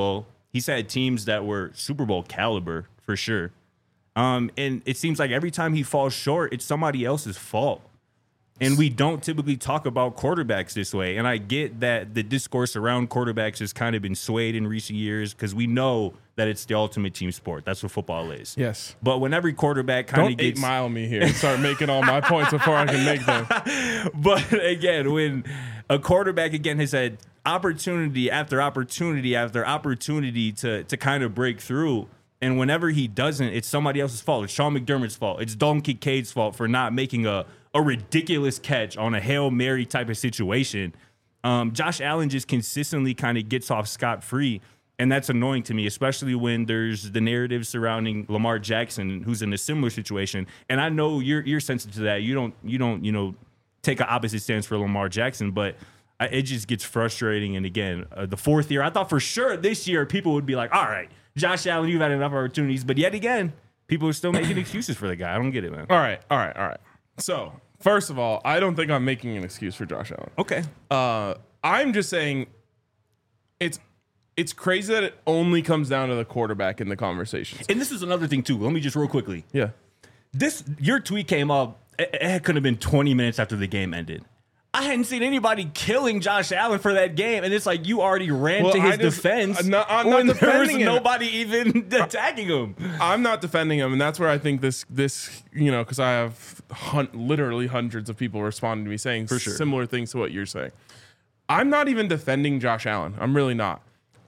Speaker 3: he's had teams that were Super Bowl caliber for sure. Um, and it seems like every time he falls short, it's somebody else's fault. And we don't typically talk about quarterbacks this way. And I get that the discourse around quarterbacks has kind of been swayed in recent years because we know that it's the ultimate team sport. That's what football is.
Speaker 2: Yes.
Speaker 3: But when every quarterback kind
Speaker 2: Don't
Speaker 3: of gets...
Speaker 2: eight mile me here and start making all my points before I can make them.
Speaker 3: But again, when a quarterback, again, has had opportunity after opportunity after opportunity to, to kind of break through, and whenever he doesn't, it's somebody else's fault. It's Sean McDermott's fault. It's Dalton Kincaid's fault for not making a... a ridiculous catch on a Hail Mary type of situation. Um, Josh Allen just consistently kind of gets off scot-free, and that's annoying to me, especially when there's the narrative surrounding Lamar Jackson, who's in a similar situation. And I know you're you're sensitive to that. You don't you don't you know take an opposite stance for Lamar Jackson, but I, it just gets frustrating. And again, uh, the fourth year, I thought for sure this year people would be like, all right, Josh Allen, you've had enough opportunities, but yet again, people are still making excuses for the guy. I don't get it, man.
Speaker 2: All right, all right, all right. So, first of all, I don't think I'm making an excuse for Josh Allen.
Speaker 3: Okay.
Speaker 2: Uh, I'm just saying it's it's crazy that it only comes down to the quarterback in the conversations.
Speaker 3: And this is another thing, too. Let me just real quickly.
Speaker 2: Yeah.
Speaker 3: This Your tweet came up, it, it could have been twenty minutes after the game ended. I hadn't seen anybody killing Josh Allen for that game, and it's like you already ran
Speaker 2: Well,
Speaker 3: to his
Speaker 2: I just-
Speaker 3: defense
Speaker 2: I'm not- I'm
Speaker 3: when
Speaker 2: not
Speaker 3: there was
Speaker 2: defending him.
Speaker 3: nobody even attacking him.
Speaker 2: I'm not defending him, and that's where I think this, this you know, because I have hun- literally hundreds of people responding to me saying
Speaker 3: For sure.
Speaker 2: similar things to what you're saying. I'm not even defending Josh Allen. I'm really not.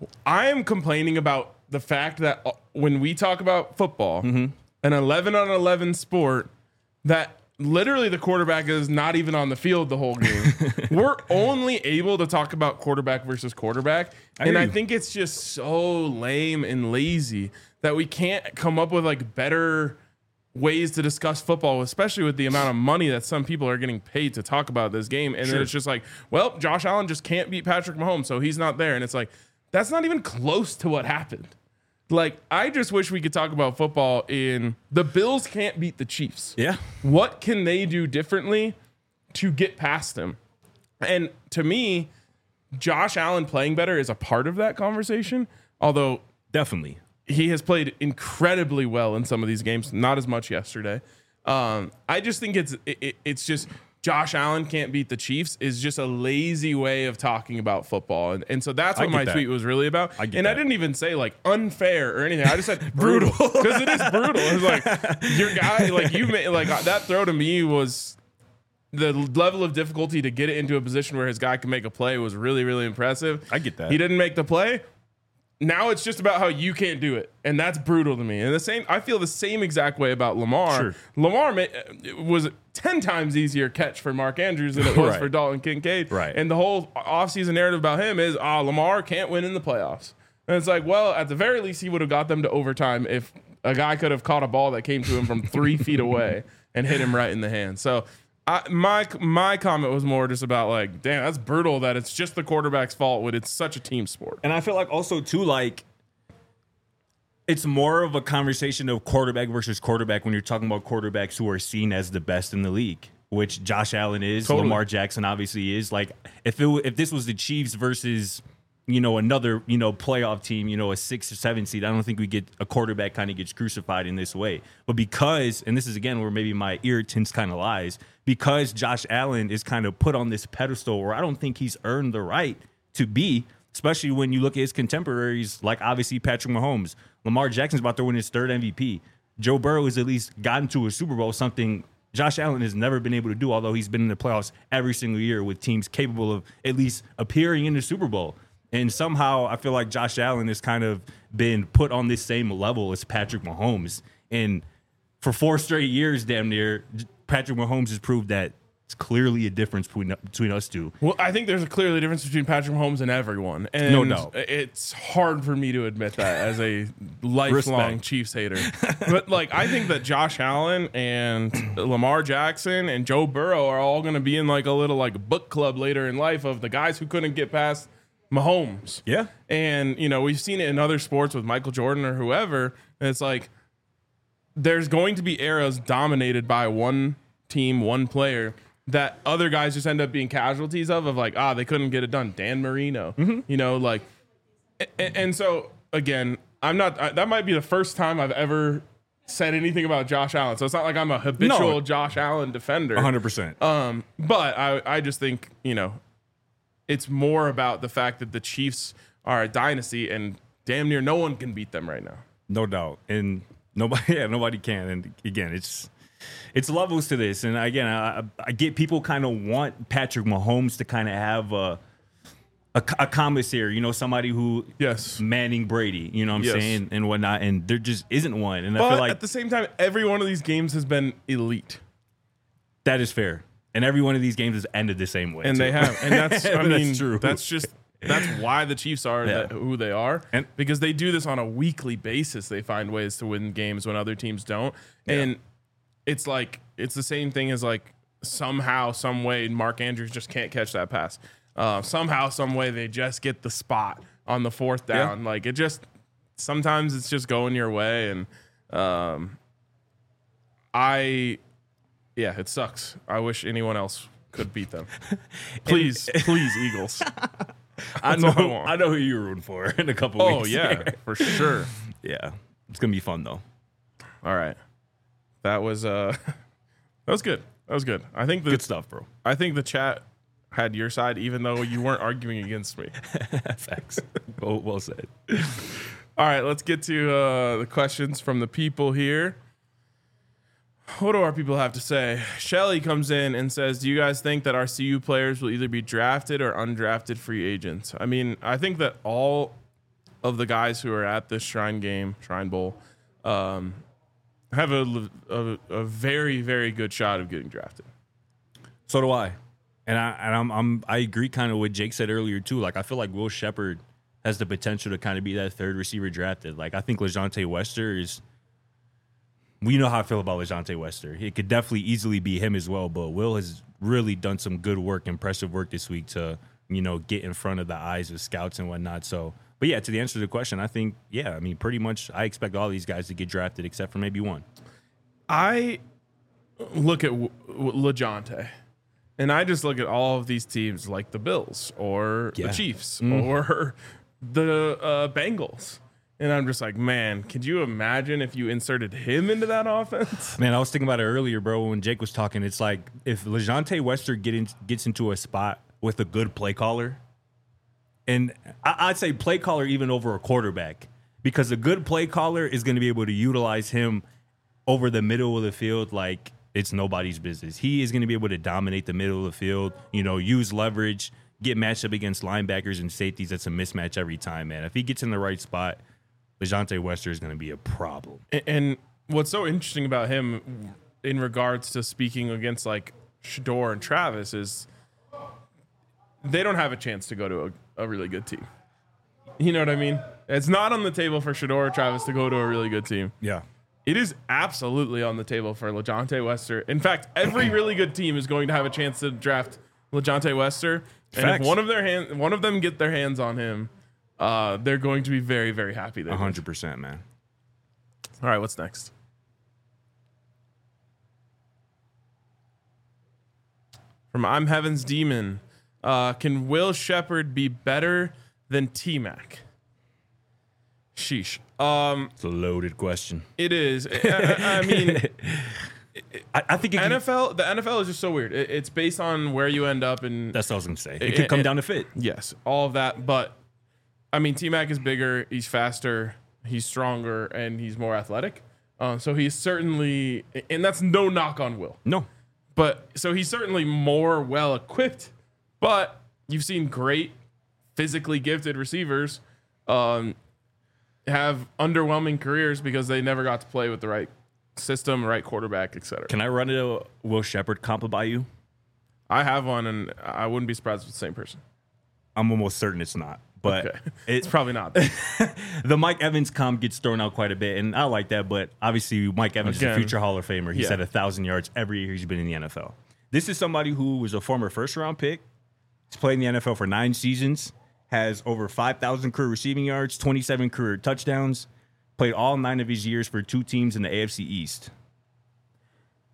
Speaker 2: I am complaining about the fact that uh, when we talk about football,
Speaker 3: Mm-hmm.
Speaker 2: an eleven on eleven sport, that literally the quarterback is not even on the field the whole game. We're only able to talk about quarterback versus quarterback.
Speaker 3: I
Speaker 2: and
Speaker 3: hear
Speaker 2: I
Speaker 3: you.
Speaker 2: think it's just so lame and lazy that we can't come up with like better ways to discuss football, especially with the amount of money that some people are getting paid to talk about this game. And
Speaker 3: Sure.
Speaker 2: then it's just like, well, Josh Allen just can't beat Patrick Mahomes, so he's not there. And it's like, that's not even close to what happened. Like, I just wish we could talk about football in the Bills can't beat the Chiefs.
Speaker 3: Yeah.
Speaker 2: What can they do differently to get past them? And to me, Josh Allen playing better is a part of that conversation, although
Speaker 3: Definitely.
Speaker 2: he has played incredibly well in some of these games, not as much yesterday. Um, I just think it's it, it- it's just Josh Allen can't beat the Chiefs is just a lazy way of talking about football. And, and so that's
Speaker 3: I
Speaker 2: what
Speaker 3: get
Speaker 2: my
Speaker 3: that.
Speaker 2: tweet was really about.
Speaker 3: I get
Speaker 2: and I
Speaker 3: that.
Speaker 2: didn't even say like unfair or anything. I just said brutal because it is brutal. It's like your guy, like you made, like that throw to me was the level of difficulty to get it into a position where his guy can make a play was really, really impressive.
Speaker 3: I get that.
Speaker 2: He didn't make the play. Now it's just about how you can't do it, and that's brutal to me. And the same, I feel the same exact way about Lamar.
Speaker 3: Sure.
Speaker 2: Lamar ma- it was ten times easier catch for Mark Andrews than it was
Speaker 3: Right.
Speaker 2: for Dalton Kincaid.
Speaker 3: Right.
Speaker 2: And the whole offseason narrative about him is, ah, Lamar can't win in the playoffs. And it's like, well, at the very least, he would have got them to overtime if a guy could have caught a ball that came to him from three feet away and hit him right in the hand. So. I, my my comment was more just about like, damn, that's brutal that it's just the quarterback's fault when it's such a team sport.
Speaker 3: And I feel like also too, like it's more of a conversation of quarterback versus quarterback when you're talking about quarterbacks who are seen as the best in the league, which Josh Allen is,
Speaker 2: Totally.
Speaker 3: Lamar Jackson obviously is. Like if it w- if this was the Chiefs versus you know another you know playoff team, you know a six or seven seed, I don't think we get a quarterback kind of gets crucified in this way. But because, and this is again where maybe my irritants kind of lies, because Josh Allen is kind of put on this pedestal where I don't think he's earned the right to be, especially when you look at his contemporaries, like obviously Patrick Mahomes. Lamar Jackson's about to win his third M V P. Joe Burrow has at least gotten to a Super Bowl, something Josh Allen has never been able to do, although he's been in the playoffs every single year with teams capable of at least appearing in the Super Bowl. And somehow I feel like Josh Allen has kind of been put on this same level as Patrick Mahomes. And for four straight years, damn near, Patrick Mahomes has proved that it's clearly a difference between between us two.
Speaker 2: Well, I think there's a clearly difference between Patrick Mahomes and everyone. And
Speaker 3: No doubt.
Speaker 2: it's hard for me to admit that as a lifelong
Speaker 3: Respect.
Speaker 2: Chiefs hater. But like, I think that Josh Allen and Lamar Jackson and Joe Burrow are all going to be in like a little like book club later in life of the guys who couldn't get past Mahomes.
Speaker 3: Yeah.
Speaker 2: And, you know, we've seen it in other sports with Michael Jordan or whoever. And it's like, there's going to be eras dominated by one team, one player that other guys just end up being casualties of, of like, ah, they couldn't get it done. Dan Marino, you know, like, and, and so again, I'm not. I, that might be the first time I've ever said anything about Josh Allen. So it's not like I'm a habitual
Speaker 3: No.
Speaker 2: Josh Allen defender.
Speaker 3: one hundred percent.
Speaker 2: Um, but I, I just think, you know, it's more about the fact that the Chiefs are a dynasty and damn near no one can beat them right now.
Speaker 3: No doubt. And nobody, yeah, nobody can. And again, it's it's levels to this. And again, I, I get people kind of want Patrick Mahomes to kind of have a, a a commissary, you know, somebody who
Speaker 2: Yes.
Speaker 3: Manning Brady, you know what I'm
Speaker 2: Yes.
Speaker 3: saying, and whatnot. And there just isn't one. And I
Speaker 2: But
Speaker 3: feel like
Speaker 2: at the same time, every one of these games has been elite.
Speaker 3: that is fair. And every one of these games has ended the same way.
Speaker 2: And
Speaker 3: too.
Speaker 2: they have. And that's, I
Speaker 3: That's
Speaker 2: mean,
Speaker 3: true.
Speaker 2: that's just, that's why the Chiefs are
Speaker 3: Yeah.
Speaker 2: that, who they are.
Speaker 3: And-
Speaker 2: because they do this on a weekly basis. They find ways to win games when other teams don't. And it's like, it's the same thing as like somehow, some way, Mark Andrews just can't catch that pass. Uh, somehow, some way, they just get the spot on the fourth down.
Speaker 3: Yeah.
Speaker 2: Like it just, sometimes it's just going your way. And um, I, yeah, it sucks. I wish anyone else could beat them. Please, please, Eagles.
Speaker 3: I
Speaker 2: That's all I
Speaker 3: know,
Speaker 2: want.
Speaker 3: I know who you're rooting for in a couple
Speaker 2: Oh
Speaker 3: weeks.
Speaker 2: yeah, for sure.
Speaker 3: yeah. It's gonna be fun though.
Speaker 2: All right, that was uh, that was good. That was good. I think the
Speaker 3: Good stuff, bro.
Speaker 2: I think the chat had your side, even though you weren't arguing against me.
Speaker 3: Facts. well, well said.
Speaker 2: All right, let's get to uh, the questions from the people here. What do our people have to say? Shelly comes in and says, do you guys think that our C U players will either be drafted or undrafted free agents? I mean, I think that all of the guys who are at this Shrine game, Shrine Bowl, um, have a, a, a very, very good shot of getting drafted.
Speaker 3: So do I. And I and I'm, I'm I agree kind of what Jake said earlier too. Like I feel like Will Shepard has the potential to kind of be that third receiver drafted. Like I think LeJontay Wester is. We know how I feel about LeJontay Wester. It could definitely easily be him as well. But Will has really done some good work, impressive work this week to you know get in front of the eyes of scouts and whatnot. So, but yeah, to the answer to the question, I think yeah, I mean pretty much I expect all these guys to get drafted except for maybe one.
Speaker 2: I look at w- w- LeJontay, and I just look at all of these teams like the Bills or
Speaker 3: Yeah.
Speaker 2: the Chiefs
Speaker 3: Mm.
Speaker 2: or the uh, Bengals. And I'm just like, man, could you imagine if you inserted him into that offense?
Speaker 3: Man, I was thinking about it earlier, bro, when Jake was talking. It's like if LeJontay Wester get in, gets into a spot with a good play caller, and I, I'd say play caller even over a quarterback, because a good play caller is going to be able to utilize him over the middle of the field like it's nobody's business. He is going to be able to dominate the middle of the field, you know, use leverage, get matched up against linebackers and safeties. That's a mismatch every time, man. If he gets in the right spot, LeJontay Wester is going to be a problem.
Speaker 2: And, and what's so interesting about him in regards to speaking against like Shador and Travis is they don't have a chance to go to a, a really good team. You know what I mean? It's not on the table for Shador or Travis to go to a really good team.
Speaker 3: Yeah.
Speaker 2: It is absolutely on the table for LeJontay Wester. In fact, every really good team is going to have a chance to draft LeJontay Wester. And
Speaker 3: Facts.
Speaker 2: if one of their hand, one of them get their hands on him, uh, they're going to be very, very happy. They
Speaker 3: one
Speaker 2: did.
Speaker 3: hundred percent, man.
Speaker 2: All right, what's next? From I'm Heaven's Demon. Uh, can Will Shepard be better than T-Mac? Sheesh. Um,
Speaker 3: It's a loaded question.
Speaker 2: it is. I, I- I mean,
Speaker 3: I, I think it can,
Speaker 2: N F L. The N F L is just so weird. It, it's based on where you end up, and
Speaker 3: that's what I was going to say. It,
Speaker 2: It-
Speaker 3: could come
Speaker 2: it-
Speaker 3: down to fit.
Speaker 2: yes, all of that. But I mean, T-Mac is bigger. He's faster. He's stronger, and he's more athletic. Uh, so he's certainly, and that's no knock on Will.
Speaker 3: No.
Speaker 2: But so he's certainly more well equipped. But you've seen great physically gifted receivers um, have underwhelming careers because they never got to play with the right system, right quarterback, et cetera.
Speaker 3: Can I run a Will Shepard comp by you?
Speaker 2: I have one, and I wouldn't be surprised if it's the same person.
Speaker 3: I'm almost certain it's not. But
Speaker 2: Okay.
Speaker 3: it,
Speaker 2: It's probably not.
Speaker 3: the Mike Evans comp gets thrown out quite a bit, and I like that. But obviously, Mike Evans is
Speaker 2: Again,
Speaker 3: a future Hall of Famer. He's
Speaker 2: yeah.
Speaker 3: had a thousand yards every year he's been in the N F L. This is somebody who was a former first round pick. He's played in the N F L for nine seasons, has over five thousand career receiving yards, twenty-seven career touchdowns, played all nine of his years for two teams in the A F C East.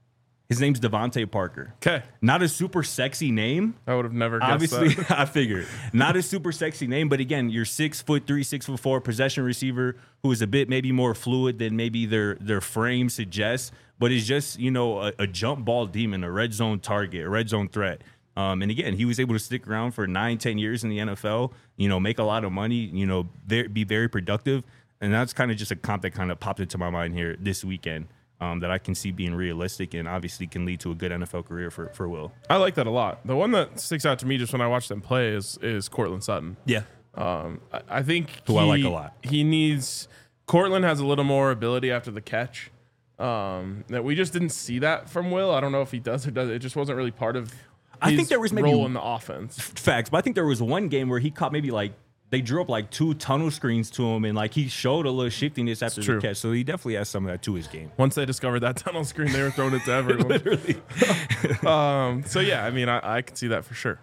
Speaker 3: His name's Devontae Parker.
Speaker 2: Okay.
Speaker 3: Not a super sexy name.
Speaker 2: I would have never guessed
Speaker 3: Obviously,
Speaker 2: that.
Speaker 3: I figured. Not a super sexy name, but again, you're six foot three, six foot four, possession receiver who is a bit maybe more fluid than maybe their their frame suggests, but is just, you know, a, a jump ball demon, a red zone target, a red zone threat. Um, and again, he was able to stick around for nine, ten years in the N F L, you know, make a lot of money, you know, very, be very productive. And that's kind of just a comp that kind of popped into my mind here this weekend. Um, that I can see being realistic and obviously can lead to a good N F L career for, for Will.
Speaker 2: I like that a lot. The one that sticks out to me just when I watch them play is is Cortland Sutton.
Speaker 3: Yeah.
Speaker 2: Um, I, I think
Speaker 3: Who
Speaker 2: he,
Speaker 3: I like a lot.
Speaker 2: He needs Cortland has a little more ability after the catch. Um, that we just didn't see that from Will. I don't know if he does or does. It just wasn't really part of his
Speaker 3: I think there was maybe
Speaker 2: role in the offense.
Speaker 3: Facts, but I think there was one game where he caught maybe like they drew up like two tunnel screens to him, and like he showed a little shiftiness after the catch. So he definitely has some of that to his game.
Speaker 2: Once they discovered that tunnel screen, they were throwing it to everyone.
Speaker 3: Literally.
Speaker 2: um, so yeah, I mean, I, I can see that for sure.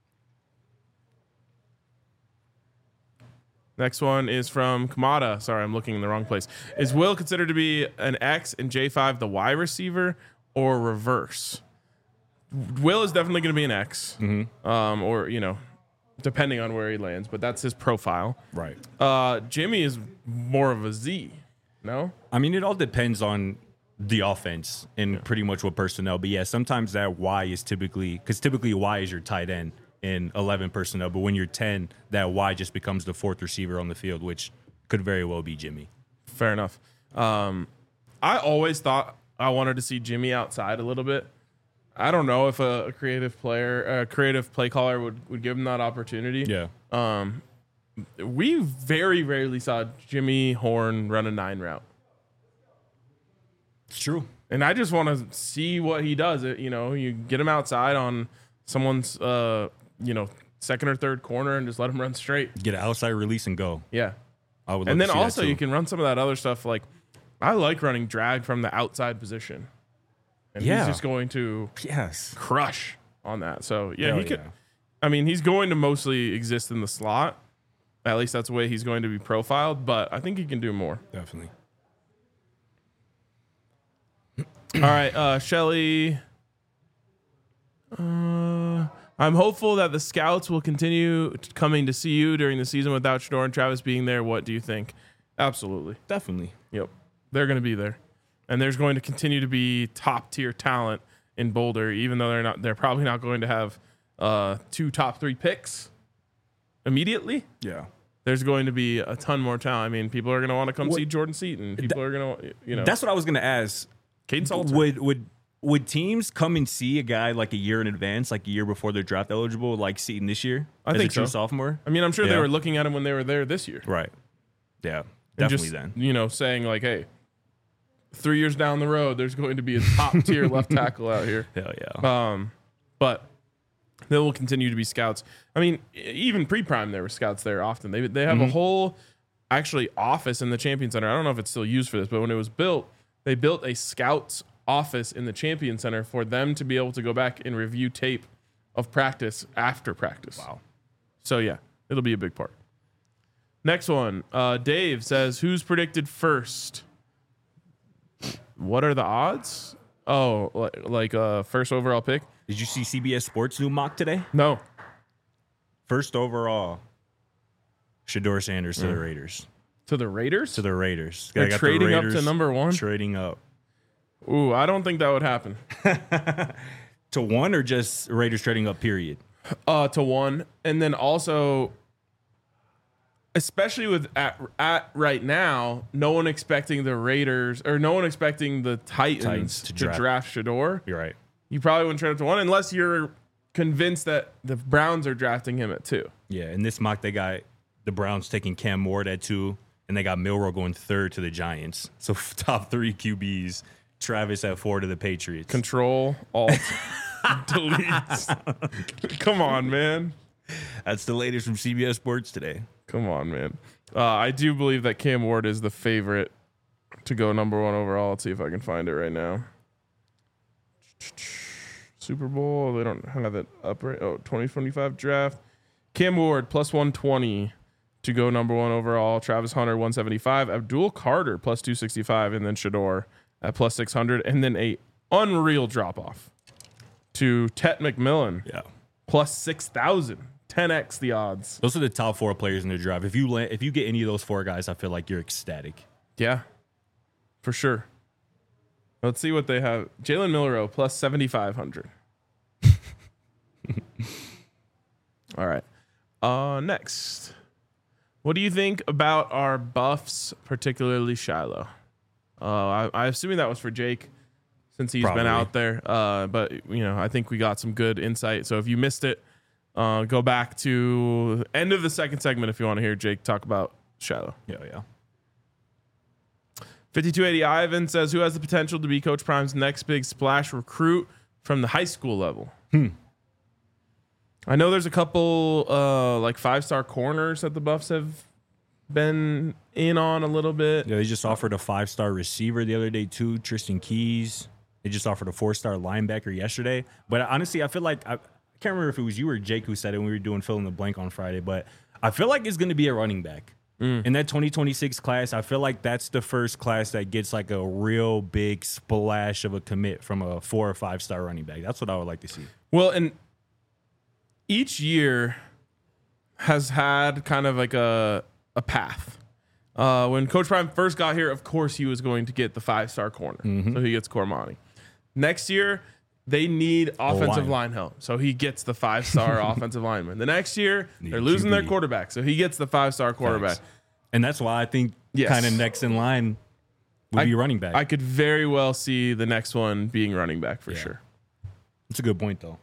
Speaker 2: Next one is from Kamada. Sorry, I'm looking in the wrong place. Is Will considered to be an X and J five the Y receiver or reverse? Will is definitely going to be an X,
Speaker 3: mm-hmm.
Speaker 2: um, or you know. Depending on where he lands, but that's his profile.
Speaker 3: Right.
Speaker 2: Uh, Jimmy is more of a Z. No?
Speaker 3: I mean, it all depends on the offense and yeah. pretty much what personnel. But yeah, sometimes that Y is typically, because typically Y is your tight end in eleven personnel. But when you're ten, that Y just becomes the fourth receiver on the field, which could very well be Jimmy.
Speaker 2: Fair enough. Um, I always thought I wanted to see Jimmy outside a little bit. I don't know if a, a creative player, a creative play caller would, would give him that opportunity.
Speaker 3: Yeah.
Speaker 2: Um, we very rarely saw Jimmy Horn run a nine route.
Speaker 3: It's true.
Speaker 2: And I just want to see what he does. It, you know, you get him outside on someone's, uh, you know, second or third corner and just let him run straight.
Speaker 3: Get an outside release and go.
Speaker 2: Yeah.
Speaker 3: I would love
Speaker 2: and then
Speaker 3: to see
Speaker 2: also
Speaker 3: that too.
Speaker 2: You can run some of that other stuff. Like I like running drag from the outside position. And
Speaker 3: yeah.
Speaker 2: he's just going to
Speaker 3: yes.
Speaker 2: crush on that. So, yeah,
Speaker 3: Hell
Speaker 2: he could.
Speaker 3: yeah.
Speaker 2: I mean, he's going to mostly exist in the slot. At least that's the way he's going to be profiled. But I think he can do more.
Speaker 3: Definitely.
Speaker 2: All right, uh, Shelly. Uh, I'm hopeful that the scouts will continue coming to see you during the season without Shador and Travis being there. What do you think? Absolutely.
Speaker 3: Definitely.
Speaker 2: Yep. They're going to be there. And there's going to continue to be top tier talent in Boulder, even though they're not. They're probably not going to have uh, two top three picks immediately.
Speaker 3: Yeah,
Speaker 2: there's going to be a ton more talent. I mean, people are going to want to come
Speaker 3: what,
Speaker 2: see Jordan Seaton. People
Speaker 3: that,
Speaker 2: are going to, you know.
Speaker 3: That's what I was going to ask.
Speaker 2: Caden Salter.
Speaker 3: Would would would teams come and see a guy like a year in advance, like a year before they're draft eligible, like Seaton this year?
Speaker 2: I
Speaker 3: as
Speaker 2: think
Speaker 3: a true
Speaker 2: so.
Speaker 3: Sophomore.
Speaker 2: I mean, I'm sure
Speaker 3: yeah.
Speaker 2: they were looking at him when they were there this year.
Speaker 3: Right. Yeah.
Speaker 2: And
Speaker 3: definitely.
Speaker 2: Just,
Speaker 3: then
Speaker 2: you know, saying like, hey. Three years down the road, there's going to be a top tier left tackle out here.
Speaker 3: Hell yeah.
Speaker 2: Um, but there will continue to be scouts. I mean, even pre-prime, there were scouts there often. They they have mm-hmm. a whole actually office in the Champion Center. I don't know if it's still used for this, but when it was built, they built a scouts office in the Champion Center for them to be able to go back and review tape of practice after practice.
Speaker 3: Wow.
Speaker 2: So yeah, it'll be a big part. Next one, uh, Dave says, "Who's predicted first?" What are the odds? Oh, like, like uh, first overall pick.
Speaker 3: Did you see C B S Sports new mock today?
Speaker 2: No.
Speaker 3: First overall, Shador Sanders to mm. the Raiders.
Speaker 2: To the Raiders?
Speaker 3: To the Raiders.
Speaker 2: They're trading the Raiders up to number one?
Speaker 3: Trading up.
Speaker 2: Ooh, I don't think that would happen.
Speaker 3: To one or just Raiders trading up, period?
Speaker 2: Uh, to one. And then also... Especially with at, at right now, no one expecting the Raiders or no one expecting the Titans, Titans to, to draft. draft Shador.
Speaker 3: You're right.
Speaker 2: You probably wouldn't trade up to one unless you're convinced that the Browns are drafting him at two.
Speaker 3: Yeah, in this mock, they got the Browns taking Cam Ward at two, and they got Milroe going third to the Giants. So top three Q Bs, Travis at four to the Patriots.
Speaker 2: Control, Alt, delete. Come on, man.
Speaker 3: That's the latest from C B S Sports today.
Speaker 2: Come on, man. Uh, I do believe that Cam Ward is the favorite to go number one overall. Let's see if I can find it right now. Super Bowl. They don't have it up right. Oh, twenty twenty-five draft. Cam Ward plus one twenty to go number one overall. Travis Hunter one seventy-five. Abdul Carter plus two sixty-five. And then Shador at plus six hundred. And then a unreal drop off to Tet McMillan.
Speaker 3: Yeah.
Speaker 2: Plus six thousand. ten x the odds.
Speaker 3: Those are the top four players in the draft. If you land, if you get any of those four guys, I feel like you're ecstatic.
Speaker 2: Yeah, for sure. Let's see what they have. Jalen Milroe plus seventy-five hundred. All right. Uh, next. What do you think about our buffs, particularly Shiloh? Uh, I, I'm assuming that was for Jake since he's
Speaker 3: Probably.
Speaker 2: been out there. Uh, but, you know, I think we got some good insight. So if you missed it, uh, go back to end of the second segment if you want to hear Jake talk about Shiloh.
Speaker 3: Yeah, yeah.
Speaker 2: fifty-two eighty Ivan says, who has the potential to be Coach Prime's next big splash recruit from the high school level?
Speaker 3: Hmm.
Speaker 2: I know there's a couple uh, like five-star corners that the Buffs have been in on a little bit.
Speaker 3: Yeah, they just offered a five-star receiver the other day too, Tristan Keys. They just offered a four-star linebacker yesterday. But honestly, I feel like I, I can't remember if it was you or Jake who said it when we were doing fill in the blank on Friday, but I feel like it's going to be a running back. Mm. In that twenty twenty-six class, I feel like that's the first class that gets like a real big splash of a commit from a four or five-star running back. That's what I would like to see.
Speaker 2: Well, and each year has had kind of like a a path. Uh, when Coach Prime first got here, of course he was going to get the five-star corner, mm-hmm. so he gets Cormani. Next year, they need offensive line. line help, so he gets the five-star offensive lineman. The next year, need they're losing Q B. Their quarterback, so he gets the five-star quarterback. Thanks.
Speaker 3: And that's why I think yes. kind of next in line would I, be running back.
Speaker 2: I could very well see the next one being running back for yeah. sure.
Speaker 3: That's a good point, though.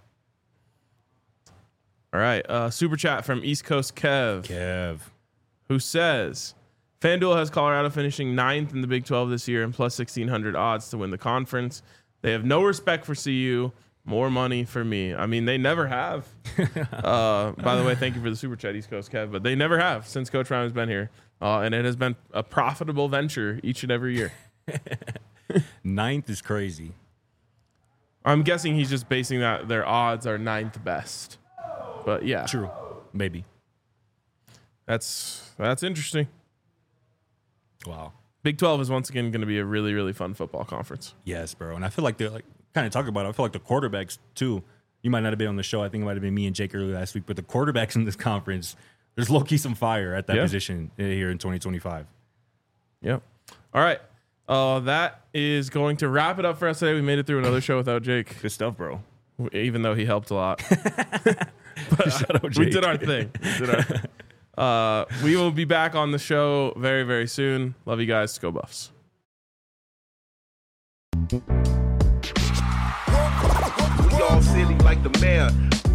Speaker 2: All right, uh, super chat from East Coast Kev.
Speaker 3: Kev.
Speaker 2: Who says, FanDuel has Colorado finishing ninth in the Big twelve this year and plus sixteen hundred odds to win the conference. They have no respect for C U. More money for me. I mean, they never have. uh, by the way, thank you for the super chat, East Coast Kev. But they never have since Coach Ryan has been here. Uh, and it has been a profitable venture each and every year.
Speaker 3: Ninth is crazy.
Speaker 2: I'm guessing he's just basing that their odds are ninth best. But yeah.
Speaker 3: True. Maybe.
Speaker 2: That's that's interesting.
Speaker 3: Wow.
Speaker 2: Big twelve is once again going to be a really, really fun football conference.
Speaker 3: Yes, bro. And I feel like they're like kind of talking about it. I feel like the quarterbacks too. You might not have been on the show. I think it might have been me and Jake earlier last week. But the quarterbacks in this conference, there's low key some fire at that yeah. position here in twenty twenty-five.
Speaker 2: Yep. All right. Uh, that is going to wrap it up for us today. We made it through another show without Jake.
Speaker 3: Good stuff, bro.
Speaker 2: Even though he helped a lot. But uh, we did our thing. We did our thing. Uh, we will be back on the show very, very soon. Love you guys. Go Buffs.
Speaker 4: We all silly like the mayor.